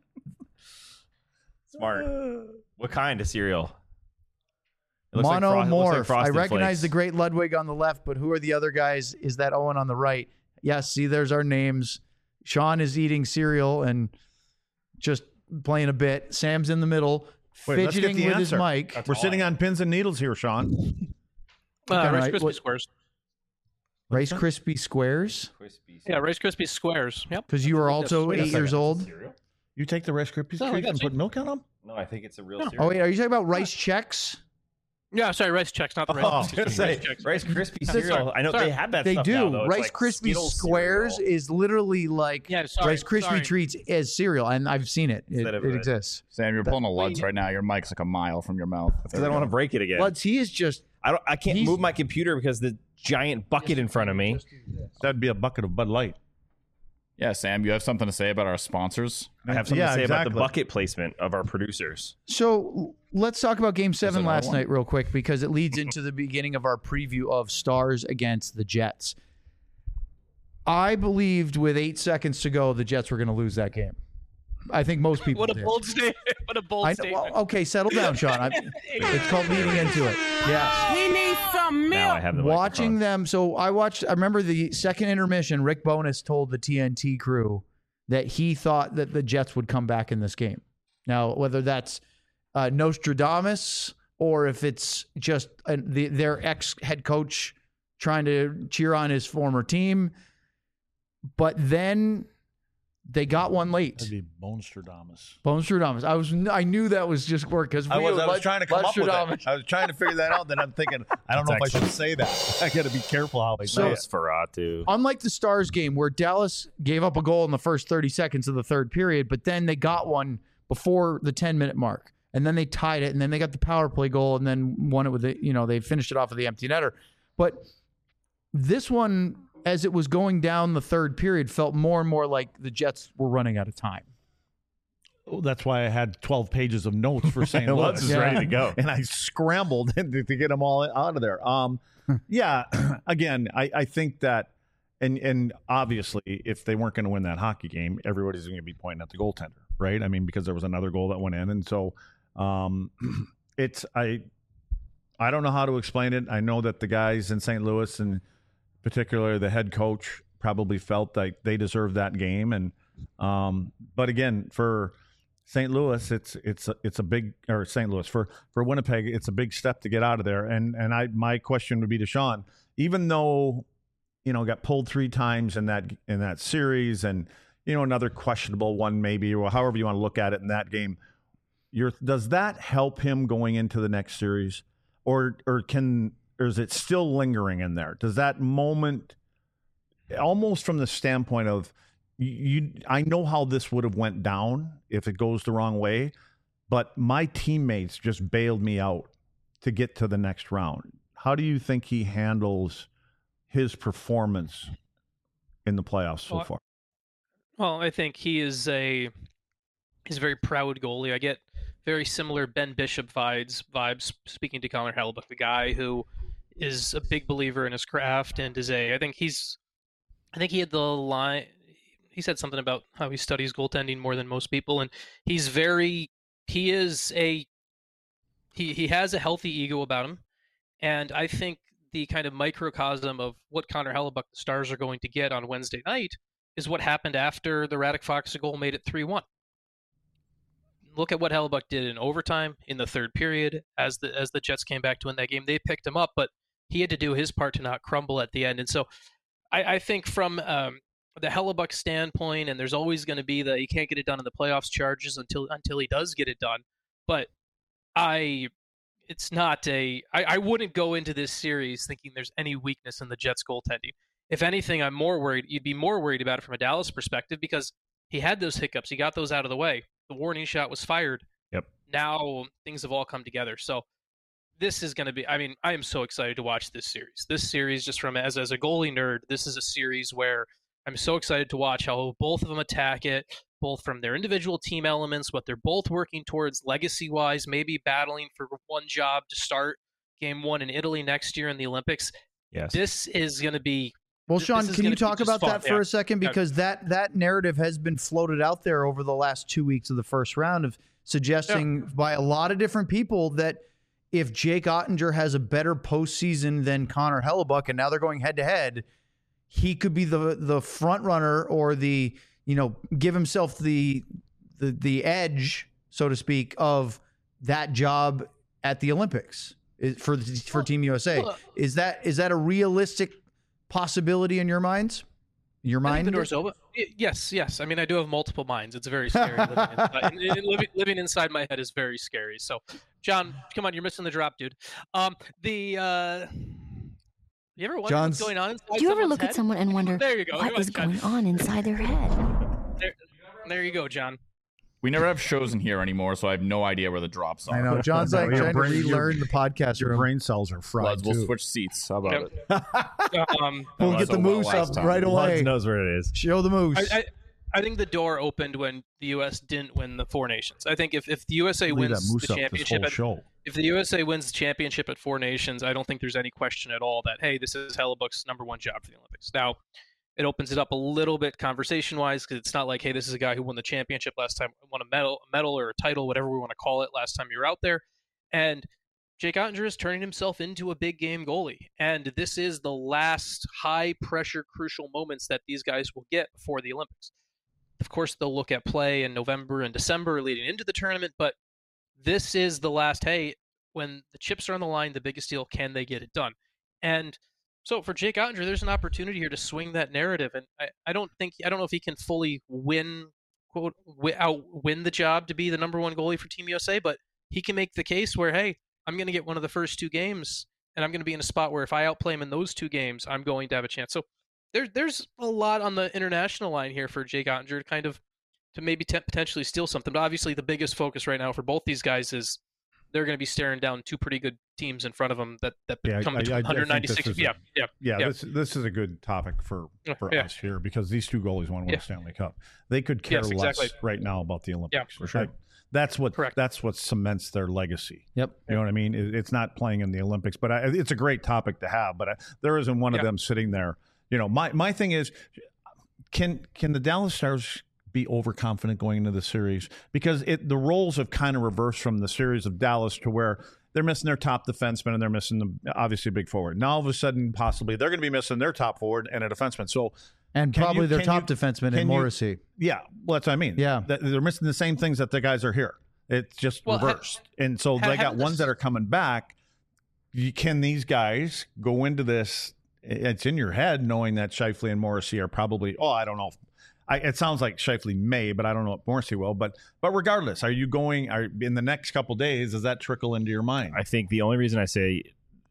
Smart. What kind of cereal? Monomorph. Like I recognize Flakes. the great Ludwig on the left, but who are the other guys? Is that Owen on the right? Yes, see, there's our names. Sean is eating cereal and just playing a bit. Sam's in the middle, fidgeting with his mic. We're sitting on pins and needles here, Sean. Rice Krispie Squares. Rice Krispie Squares? Yeah, Rice Krispie Squares. Yep. Because you are also 8 years old. You take the Rice Krispie Squares and put milk on them? No, I think it's a real cereal. Oh, wait, are you talking about Rice Chex? Yeah, sorry, Rice Chex, not the Rice. I was going to say Rice Krispie cereal. I know they have that. They stuff do. Now, though. Rice like Krispie Skittles Squares cereal. is literally like Rice Krispie treats as cereal, and I've seen it. It exists. Sam, you're pulling a Luds right now. Your mic's like a mile from your mouth. Because I don't want to break it again. Luds, he is just. I can't move my computer because the giant bucket in front of me. That'd be a bucket of Bud Light. Yeah, Sam, you have something to say about our sponsors? I have something to say about the bucket placement of our producers. So let's talk about Game 7 last night real quick, because it leads into the beginning of our preview of Stars against the Jets. I believed with 8 seconds to go the Jets were going to lose that game. I think most people did. Bold statement. What a bold statement. Well, okay, settle down, Sean. It's called leading into it. Yeah. We need some milk. Now I have the Watching microphone. them. So I remember the second intermission, Rick Bowness told the TNT crew that he thought that the Jets would come back in this game. Now, whether that's Nostradamus or if it's just their ex-head coach trying to cheer on his former team. But then they got one late. That'd be Bonestradamus. Bonestradamus. I knew that was just work because I was trying to come up with it. I was trying to figure that out. Then I'm thinking, I don't know if I should say that. I got to be careful how I say it. Nosferatu. Unlike the Stars game where Dallas gave up a goal in the first 30 seconds of the third period, but then they got one before the 10-minute mark, and then they tied it, and then they got the power play goal, and then won it with they finished it off with the empty netter. But this one, as it was going down the third period, felt more and more like the Jets were running out of time. That's why I had 12 pages of notes for St. Louis. Luds is ready to go. And I scrambled to get them all out of there. Yeah, again, I think that, and obviously, if they weren't going to win that hockey game, everybody's going to be pointing at the goaltender, right? I mean, because there was another goal that went in. And so I don't know how to explain it. I know that the guys in St. Louis, and particularly the head coach, probably felt like they deserved that game. And but again, for St. Louis, it's a big, or St. Louis for Winnipeg, it's a big step to get out of there. And my question would be to Sean, even though got pulled 3 times in that series, and another questionable one maybe, or however you want to look at it in that game, does that help him going into the next series, or is it still lingering in there? Does that moment, almost from the standpoint of, I know how this would have went down if it goes the wrong way, but my teammates just bailed me out to get to the next round. How do you think he handles his performance in the playoffs so far? Well, I think he's a very proud goalie. I get very similar Ben Bishop vibes speaking to Connor Hellebuyck, the guy who is a big believer in his craft and I think he had the line. He said something about how he studies goaltending more than most people, and he has a healthy ego about him, and I think the kind of microcosm of what Connor Hellebuyck, the Stars, are going to get on Wednesday night is what happened after the Radek Faksa goal made it 3-1. Look at what Hellebuyck did in overtime in the third period as the Jets came back to win that game. They picked him up, but he had to do his part to not crumble at the end. And so I think from the Hellebuyck standpoint, and there's always going to be he can't get it done in the playoffs charges until he does get it done. But I wouldn't go into this series thinking there's any weakness in the Jets goaltending. If anything, I'm more worried. You'd be more worried about it from a Dallas perspective because he had those hiccups. He got those out of the way. The warning shot was fired. Yep. Now things have all come together. So this is going to be, I am so excited to watch this series. This series, just from as a goalie nerd, this is a series where I'm so excited to watch how both of them attack it, both from their individual team elements, what they're both working towards legacy-wise, maybe battling for one job to start Game 1 in Italy next year in the Olympics. Yes. This is going to be... Well, Sean, can you talk about that for a second? Because that narrative has been floated out there over the last 2 weeks of the first round of suggesting by a lot of different people that if Jake Ottinger has a better postseason than Connor Hellebuyck, and now they're going head-to-head, he could be the front runner or the, give himself the edge, so to speak, of that job at the Olympics for Team USA. Is that a realistic possibility in your minds? Your mind? The door's open. Yes. I mean, I do have multiple minds. It's very scary. Living inside my head is very scary. So, John, come on, you're missing the drop, dude. You ever wonder what's going on inside Do you ever look head? at someone and wonder there you go. what is going on inside their head? There you go, John. We never have shows in here anymore, so I have no idea where the drops are. I know. John's like trying to relearn the podcast Your room. brain cells are fried, Bloods, we'll too. switch seats. How about it? We'll get the moose up right away. Bloods knows where it is. Show the moose. I think the door opened when the U.S. didn't win the Four Nations. I think if the USA Leave wins that moose the up this championship, whole show. if the USA wins the championship at Four Nations, I don't think there's any question at all that, hey, this is Hellebuck's number one job for the Olympics. Now, it opens it up a little bit conversation-wise because it's not like, hey, this is a guy who won the championship last time, won a medal or a title, whatever we want to call it, last time you were out there. And Jake Oettinger is turning himself into a big game goalie. And this is the last high-pressure, crucial moments that these guys will get before the Olympics. Of course, they'll look at play in November and December leading into the tournament, but this is the last, hey, when the chips are on the line, the biggest deal, can they get it done? And so for Jake Oettinger, there's an opportunity here to swing that narrative, and I don't know if he can fully win the job to be the number one goalie for Team USA, but he can make the case where, hey, I'm going to get one of the first two games, and I'm going to be in a spot where if I outplay him in those two games, I'm going to have a chance. So there's a lot on the international line here for Jake Oettinger to maybe potentially steal something. But obviously, the biggest focus right now for both these guys is they're going to be staring down two pretty good teams in front of them that come between 196. This is a good topic for us here because these two goalies want to win a Stanley Cup. They could care less right now about the Olympics. Yeah, for sure. That's what cements their legacy. Yep. You know what I mean? It's not playing in the Olympics, but it's a great topic to have. But there isn't one of them sitting there. You know, my thing is, can the Dallas Stars be overconfident going into the series? Because the roles have kind of reversed from the series of Dallas to where they're missing their top defenseman and they're missing obviously a big forward. Now all of a sudden, possibly they're going to be missing their top forward and a defenseman. So probably their top defenseman in Morrissey. Yeah, well, that's what I mean. Yeah, they're missing the same things that the guys are here. It's just reversed, and so they got ones that are coming back. Can these guys go into this? It's in your head knowing that Scheifele and Morrissey are probably. Oh, I don't know. It sounds like Scheifele may, but I don't know if Morrissey will. But regardless, are you going? In the next couple of days, does that trickle into your mind? I think the only reason I say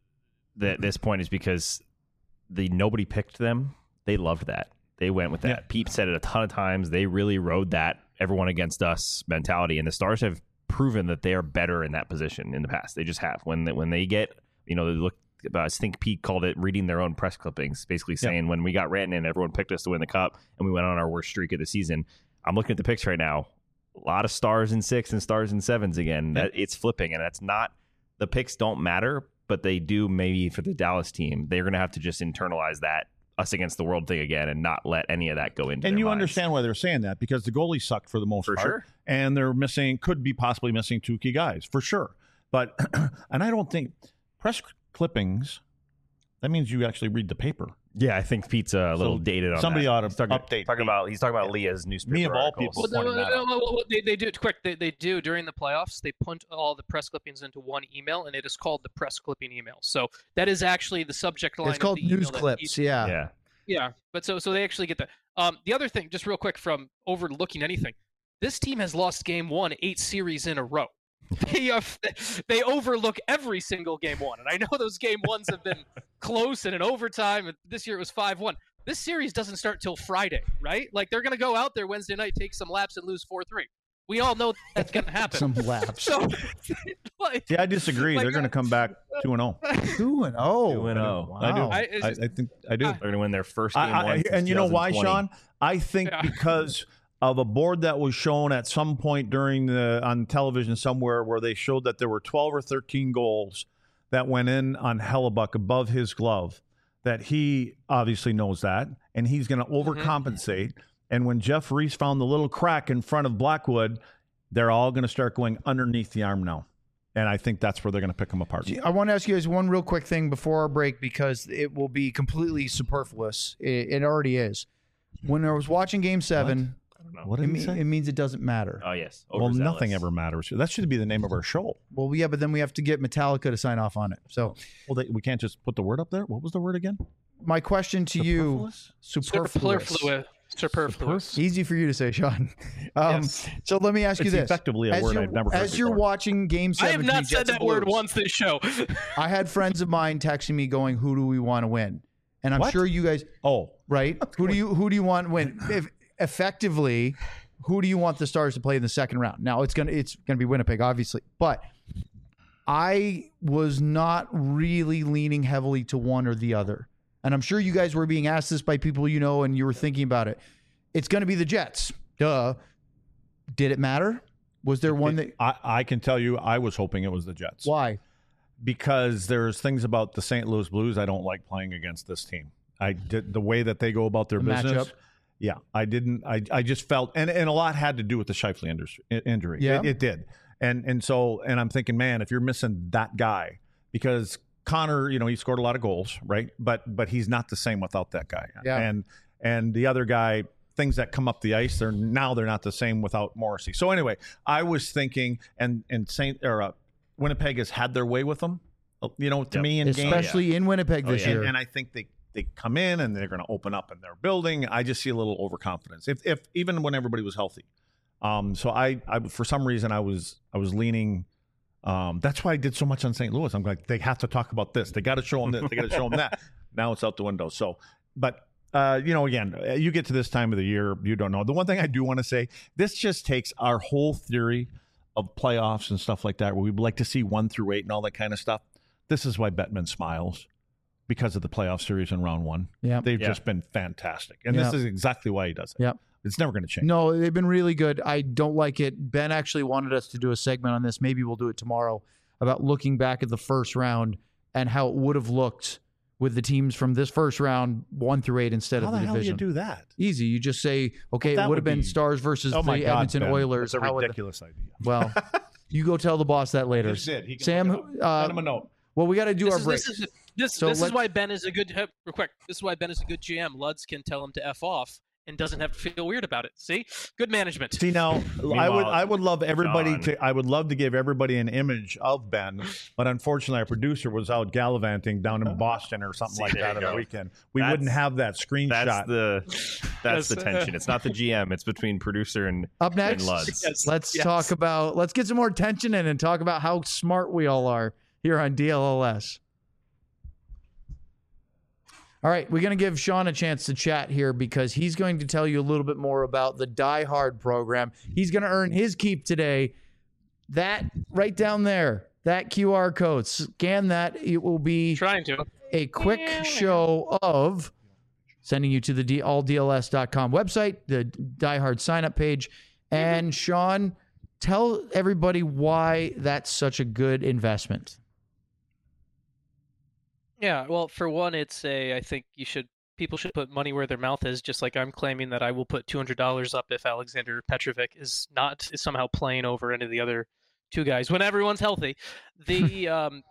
that at this point is because nobody picked them. They loved that. They went with that. Yeah. Pete said it a ton of times. They really rode that everyone against us mentality, and the Stars have proven that they are better in that position in the past. They just have. When they get, they look. I think Pete called it reading their own press clippings, basically saying when we got Rantanen, everyone picked us to win the Cup, and we went on our worst streak of the season. I'm looking at the picks right now. A lot of stars in 6 and stars in 7s again. It's flipping, and that's not – the picks don't matter, but they do maybe for the Dallas team. They're going to have to just internalize that us against the world thing again and not let any of that go into and their you minds. Understand why they're saying that, because the goalies suck for the most part. Sure. And they're could be possibly missing 2 key guys, for sure. But – and I don't think – press clippings – that means you actually read the paper. Yeah, I think Pete's a little dated on somebody that. ought to update. He's talking about Leah's newspaper. Me of all articles. people. They do quick. They do during the playoffs. They punt all the press clippings into one email, and it is called the press clipping email. So that is actually the subject line. It's called news clips. Yeah. But so they actually get that. The other thing, just real quick, from overlooking anything, this team has lost Game 1 8 series in a row. They overlook every single Game 1, and I know those Game 1s have been close and in overtime, and this year it was 5-1. This series doesn't start till Friday, right? Like, they're going to go out there Wednesday night, take some laps, and lose 4-3. We all know that's going to happen. Some laps. So, I disagree. They're going to come back 2-0. 2-0. 2-0. Wow. I do. I think I do. They're going to win their first game. And you know why, Sean? I think because of a board that was shown at some point on television somewhere where they showed that there were 12 or 13 goals that went in on Hellebuck above his glove, that he obviously knows that, and he's going to overcompensate. And when Jeff Reese found the little crack in front of Blackwood, they're all going to start going underneath the arm now. And I think that's where they're going to pick them apart. I want to ask you guys one real quick thing before our break, because it will be completely superfluous. It already is. When I was watching Game 7... What did he say? It means it doesn't matter. Oh, yes. Well, nothing ever matters. That should be the name of our show. Well, yeah, but then we have to get Metallica to sign off on it. So, we can't just put the word up there? What was the word again? My question to you, superfluous. Superfluous. Easy for you to say, Sean. Yes. So let me ask you It's this. effectively a word I've never heard As you're before. watching Game 7 I have not said that word once this show. I had friends of mine texting me going, who do we want to win? And I'm What? sure you guys, Oh, right? Who do you want to win? Effectively, who do you want the Stars to play in the second round? Now it's gonna be Winnipeg, obviously, but I was not really leaning heavily to one or the other. And I'm sure you guys were being asked this by people you know, and you were thinking about it. It's going to be the Jets. Duh. Did it matter? Was there one that? I can tell you, I was hoping it was the Jets. Why? Because there's things about the St. Louis Blues I don't like playing against this team. I did the way that they go about their business. Matchup. Yeah, I didn't. I just felt, and a lot had to do with the Scheifele injury. Yeah. It did. And I'm thinking, man, if you're missing that guy, because Connor, he scored a lot of goals, right? But he's not the same without that guy. Yeah. And the other guy, things that come up the ice, they're not the same without Morrissey. So anyway, I was thinking, and Winnipeg has had their way with them, to me in games. Especially in Winnipeg this year. And I think they come in and they're going to open up in their building. I just see a little overconfidence, if even when everybody was healthy. So I for some reason I was leaning. That's why I did so much on St. Louis. I'm like, they have to talk about this. They got to show them this. They got to show them that. Now it's out the window. So, but again, you get to this time of the year, you don't know. The one thing I do want to say, this just takes our whole theory of playoffs and stuff like that, where we'd like to see 1 through 8 and all that kind of stuff. This is why Bettman smiles, because of the playoff series in round 1. Yeah, they've just been fantastic, and this is exactly why he does it. Yep. It's never going to change. No, they've been really good. I don't like it. Ben actually wanted us to do a segment on this. Maybe we'll do it tomorrow, about looking back at the first round and how it would have looked with the teams from this first round 1 through 8 instead of the division. How the hell do you do that? Easy. You just say, okay, Well, it would have been Stars versus the Edmonton Ben. Oilers. That's a How would- ridiculous idea. Well, you go tell the boss that later. Just did. He can Sam, look it up. Send him a note. well, we got to do our break. This is why Ben is a good. Real quick. This is why Ben is a good GM. Luds can tell him to F off and doesn't have to feel weird about it. See, good management. See, now I would love everybody I would love to give everybody an image of Ben, but unfortunately our producer was out gallivanting down in Boston or something like that on the weekend. We wouldn't have that screenshot. That's the tension. It's not the GM. It's between producer and Up next, and Luds. Yes. let's get some more tension in and talk about how smart we all are here on DLLS. All right, we're going to give Sean a chance to chat here because he's going to tell you a little bit more about the Die Hard program. He's going to earn his keep today. That right down there, that QR code, scan that. It will be a quick show of sending you to the alldls.com website, the Die Hard sign-up page. And Sean, tell everybody why that's such a good investment. Yeah, well, for one, I think people should put money where their mouth is, just like I'm claiming that I will put $200 up if Alexander Petrovic is somehow playing over any of the other two guys when everyone's healthy. What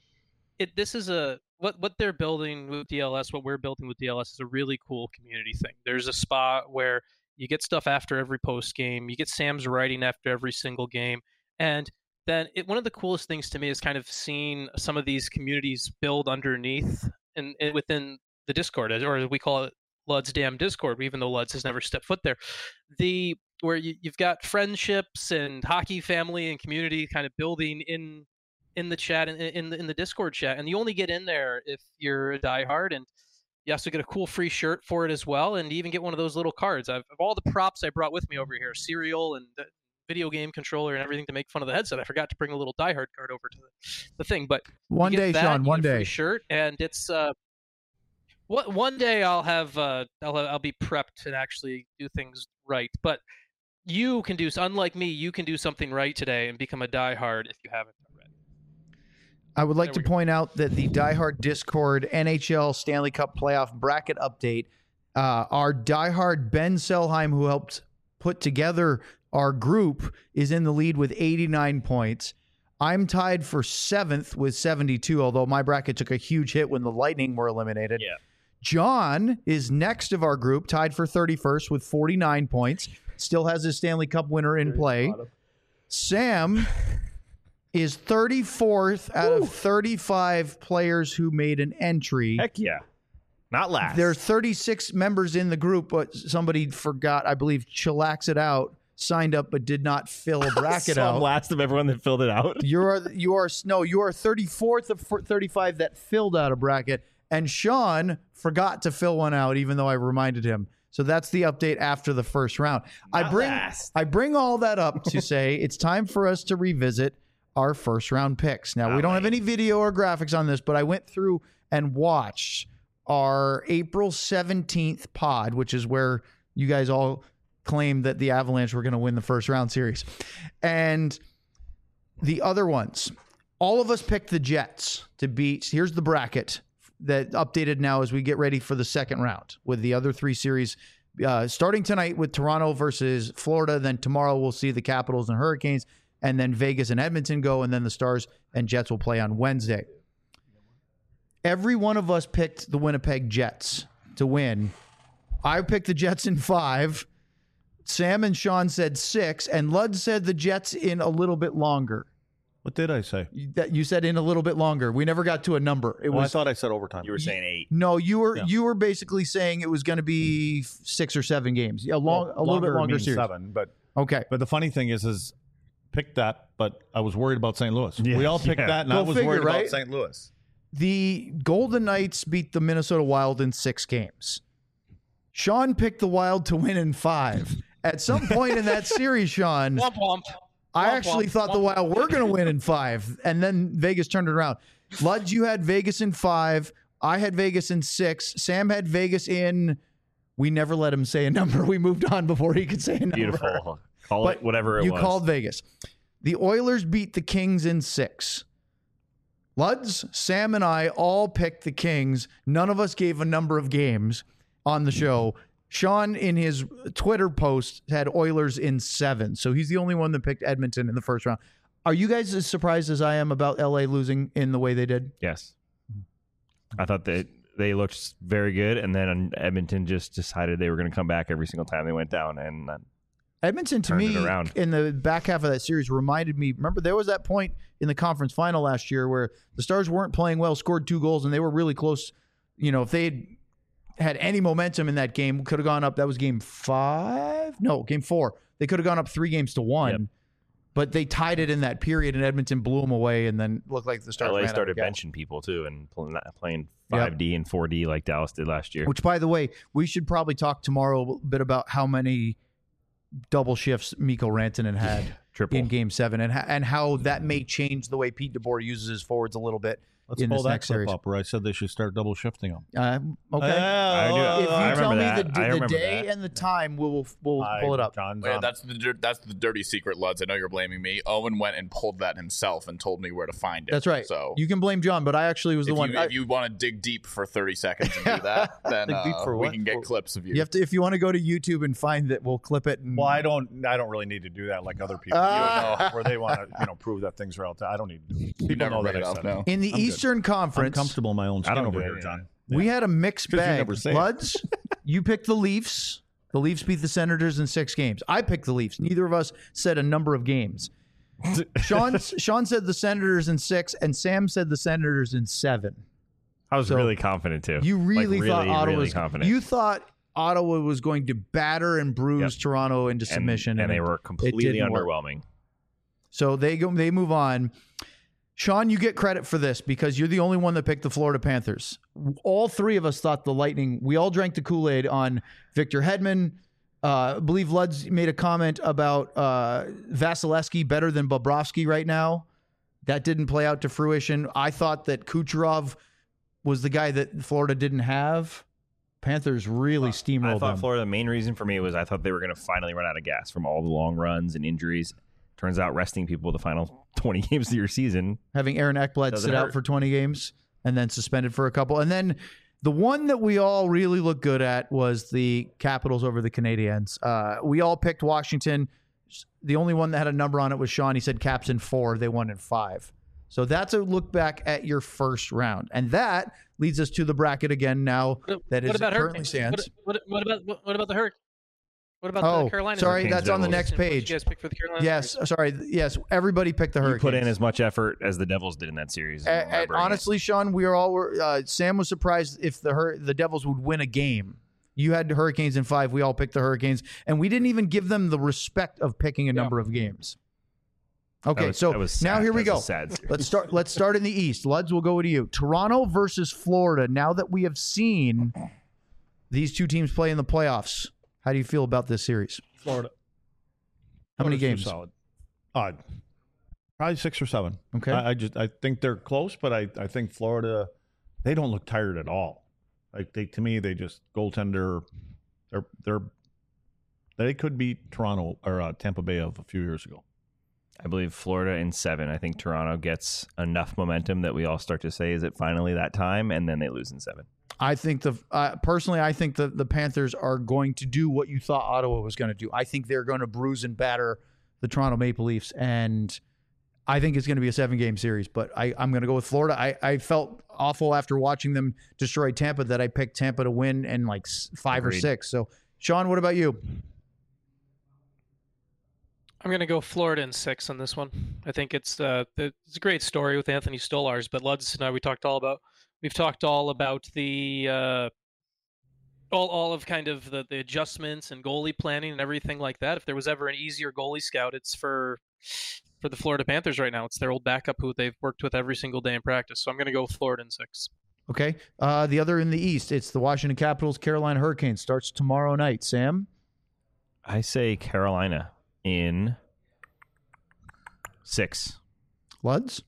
they're building with DLS, what we're building with DLS is a really cool community thing. There's a spot where you get stuff after every post game, you get Sam's writing after every single game, and then one of the coolest things to me is kind of seeing some of these communities build underneath and within the Discord, or we call it Lud's Damn Discord, even though Lud's has never stepped foot there. Where you've got friendships and hockey family and community kind of building in the chat, in the Discord chat, and you only get in there if you're a diehard, and you also get a cool free shirt for it as well, and you even get one of those little cards. Of all the props I brought with me over here, cereal and video game controller and everything to make fun of the headset, I forgot to bring a little Die Hard card over to the thing. But one day, Sean, one day, free shirt, and it's one day I'll have I'll be prepped and actually do things right. But you can unlike me, you can do something right today and become a Die Hard if you haven't already. I would like to point out that the Die Hard Discord NHL Stanley Cup playoff bracket update, our Die Hard Ben Selheim, who helped put together our group, is in the lead with 89 points. I'm tied for 7th with 72, although my bracket took a huge hit when the Lightning were eliminated. Yeah. John is next of our group, tied for 31st with 49 points. Still has his Stanley Cup winner in play. Sam is 34th out of 35 players who made an entry. Heck yeah. Not last. There are 36 members in the group, but somebody forgot, I believe, chillax it out, signed up but did not fill a bracket so out. I'm last of everyone that filled it out. You are 34th of 35 that filled out a bracket, and Sean forgot to fill one out, even though I reminded him. So that's the update after the first round. I bring all that up to say it's time for us to revisit our first round picks. Now, we don't have any video or graphics on this, but I went through and watched our April 17th pod, which is where you guys all claimed that the Avalanche were going to win the first round series. And the other ones, all of us picked the Jets to beat. Here's the bracket that updated now as we get ready for the second round with the other three series starting tonight with Toronto versus Florida. Then tomorrow we'll see the Capitals and Hurricanes, and then Vegas and Edmonton go, and then the Stars and Jets will play on Wednesday. Every one of us picked the Winnipeg Jets to win. I picked the Jets in 5. Sam and Sean said 6, and Lud said the Jets in a little bit longer. What did I say? You said in a little bit longer. We never got to a number. I thought I said overtime. You were saying 8. No, you were basically saying it was going to be 6 or 7 games. A little bit longer series. 7, but okay. But the funny thing is picked that, but I was worried about St. Louis. Yeah, we all picked that, and I was worried about St. Louis. The Golden Knights beat the Minnesota Wild in 6 games. Sean picked the Wild to win in 5. At some point in that series, Sean, I actually thought the Wild were going to win in 5, and then Vegas turned it around. Luds, you had Vegas in 5. I had Vegas in 6. Sam had Vegas in. We never let him say a number. We moved on before he could say a number. Beautiful. Call it whatever it was. You called Vegas. The Oilers beat the Kings in 6. Luds, Sam, and I all picked the Kings. None of us gave a number of games on the show. Sean, in his Twitter post, had Oilers in 7. So he's the only one that picked Edmonton in the first round. Are you guys as surprised as I am about LA losing in the way they did? Yes. I thought that they looked very good, and then Edmonton just decided they were going to come back every single time they went down. And Edmonton, to me, in the back half of that series, reminded me, remember there was that point in the conference final last year where the Stars weren't playing well, scored 2 goals, and they were really close. You know, if they had any momentum in that game, could have gone up. That was game 5? No, game 4. They could have gone up 3-1. Yep. But they tied it in that period, and Edmonton blew them away, and then looked like the Stars LA started benching people, too, and playing 5D and 4D like Dallas did last year. Which, by the way, we should probably talk tomorrow a bit about how many double shifts Mikko Rantanen had in Game 7 and how that may change the way Pete DeBoer uses his forwards a little bit. Let's pull that clip up where I said they should start double shifting them. Okay. If you tell me the day and the time, we'll pull it up. That's the dirty secret, Luds. I know you're blaming me. Owen went and pulled that himself and told me where to find it. That's right. So you can blame John, but I actually was the one. If you want to dig deep for 30 seconds and do that, then we can get clips of you. You have to, if you want to go to YouTube and find it, we'll clip it. Well, I don't really need to do that like other people where they want to prove that things are out there. I don't need to do it. People know that I said it. In the Eastern Conference, I'm comfortable in my own skin over here, John. We had a mixed bag. Luds, you picked the Leafs. The Leafs beat the Senators in 6 games. I picked the Leafs. Neither of us said a number of games. Sean said the Senators in 6, and Sam said the Senators in 7. I was really confident, too. You really thought Ottawa was confident. You thought Ottawa was going to batter and bruise Toronto into submission. And they were completely underwhelming. So they move on. Sean, you get credit for this because you're the only one that picked the Florida Panthers. All 3 of us thought the Lightning, we all drank the Kool-Aid on Victor Hedman. I believe Luds made a comment about Vasilevsky better than Bobrovsky right now. That didn't play out to fruition. I thought that Kucherov was the guy that Florida didn't have. Panthers really steamrolled I thought them. Florida, the main reason for me was I thought they were going to finally run out of gas from all the long runs and injuries. Turns out resting people the final 20 games of your season. Having Aaron Ekblad sit out for 20 games and then suspended for a couple. And then the one that we all really looked good at was the Capitals over the Canadiens. We all picked Washington. The only one that had a number on it was Sean. He said Caps in 4. They won in 5. So that's a look back at your first round. And that leads us to the bracket again now that is currently stands. What about the Hurricanes? What about the Carolina? Sorry, Hurricanes, that's on the Devils. next page. Did you guys pick for the Carolina? Yes, sorry. Yes, everybody picked the Hurricanes. You put in as much effort as the Devils did in that series. And honestly, Sean, we are all. Sam was surprised if the Devils would win a game. You had the Hurricanes in 5. We all picked the Hurricanes, and we didn't even give them the respect of picking a number of games. Okay, now here we go. Let's start in the East. Luds, we'll go to you. Toronto versus Florida. Now that we have seen these two teams play in the playoffs, how do you feel about this series? Florida. How many games? Solid. Probably 6 or 7. Okay. I think they're close, but I think Florida, they don't look tired at all. Like to me, they just goaltender. They could beat Toronto or Tampa Bay of a few years ago. I believe Florida in 7. I think Toronto gets enough momentum that we all start to say, is it finally that time? And then they lose in 7. I think personally, I think the Panthers are going to do what you thought Ottawa was going to do. I think they're going to bruise and batter the Toronto Maple Leafs, and I think it's going to be a 7-game series. But I'm going to go with Florida. I felt awful after watching them destroy Tampa that I picked Tampa to win in like 5 or 6. So, Sean, what about you? I'm going to go Florida in 6 on this one. I think it's a great story with Anthony Stolarz, but Luds and I, we've talked all about the all of kind of the adjustments and goalie planning and everything like that. If there was ever an easier goalie scout, it's for the Florida Panthers right now. It's their old backup who they've worked with every single day in practice. So I'm going to go with Florida in 6. Okay. The other in the East, it's the Washington Capitals, Carolina Hurricanes. Starts tomorrow night. Sam? I say Carolina in 6. Luds?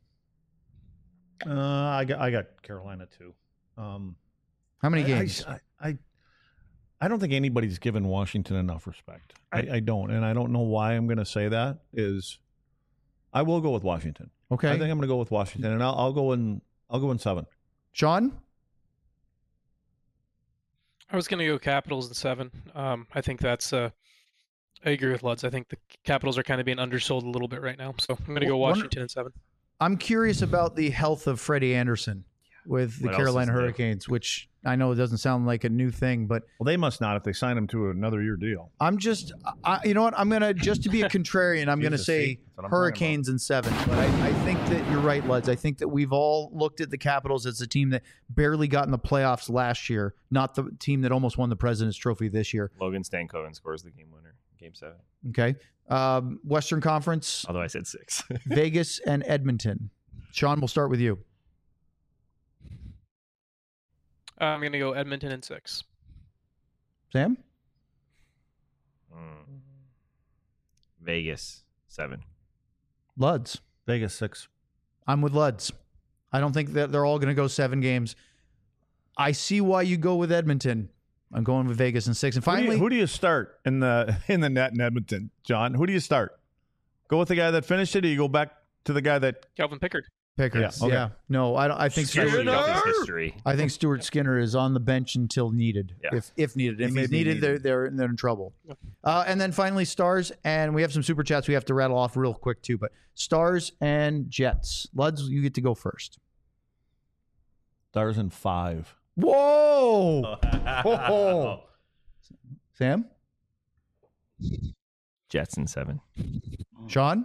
I got Carolina too. How many games? I don't think anybody's given Washington enough respect. I don't, and I don't know why I'm going to say that. I will go with Washington. Okay, I think I'm going to go with Washington, and I'll go in 7. Sean? I was going to go Capitals in 7. I think that's. I agree with Luds. I think the Capitals are kind of being undersold a little bit right now, so I'm going to go Washington in 7. I'm curious about the health of Freddie Anderson with the Carolina Hurricanes, which I know it doesn't sound like a new thing, but they must not if they sign him to another year deal. You know what? I'm gonna just to be a contrarian. I'm gonna say Hurricanes in 7. But I think that you're right, Luds. I think that we've all looked at the Capitals as a team that barely got in the playoffs last year, not the team that almost won the President's Trophy this year. Logan Stankoven scores the game winner, Game 7. Okay. Western Conference. Although I said 6. Vegas and Edmonton. Sean, we'll start with you. I'm going to go Edmonton in 6. Sam? Vegas 7. Luds. Vegas 6. I'm with Luds. I don't think that they're all going to go 7 games. I see why you go with Edmonton. I'm going with Vegas in 6. And finally, who do you start in the net in Edmonton, John? Who do you start? Go with the guy that finished it, or you go back to the guy that Calvin Pickard? Pickard. Yeah. Okay. Yeah. No, I think I think Stuart Skinner is on the bench until needed. Yeah. If needed. If he's needed, they're in trouble. And then finally, Stars, and we have some super chats we have to rattle off real quick too. But Stars and Jets. Luds, you get to go first. Stars in 5. Whoa! Oh. Sam? Jets in 7. Sean?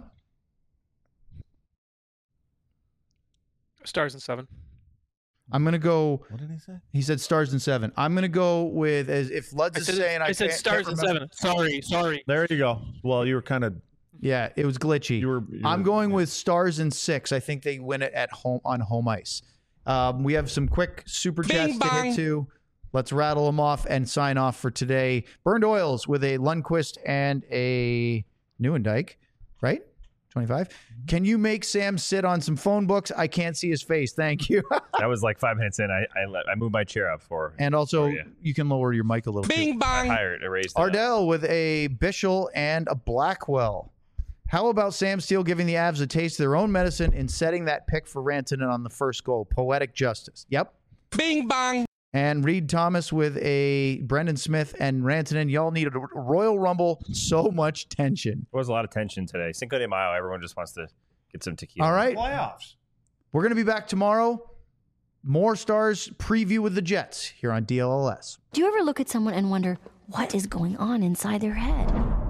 Stars in 7. I'm going to go. What did he say? He said Stars in 7. I'm going to go with, as if Luds is saying. I said Stars in 7. Sorry. There you go. Well, you were kind of. Yeah, it was glitchy. I'm going with Stars in 6. I think they win it at home on home ice. We have some quick super chats to get to. Let's rattle them off and sign off for today. Burned Oils with a Lundqvist and a Neuendijk, right? 25. Can you make Sam sit on some phone books? I can't see his face. Thank you. That was like 5 minutes in. I moved my chair up for. And also, you can lower your mic a little. Bing bang. Ardell with a Bischel and a Blackwell. How about Sam Steele giving the Avs a taste of their own medicine in setting that pick for Rantanen on the first goal? Poetic justice. Yep. Bing bang. And Reed Thomas with a Brendan Smith and Rantanen. Y'all needed a Royal Rumble. So much tension. There was a lot of tension today. Cinco de Mayo. Everyone just wants to get some tequila. All right. Playoffs. We're going to be back tomorrow. More Stars preview with the Jets here on DLLS. Do you ever look at someone and wonder What is going on inside their head?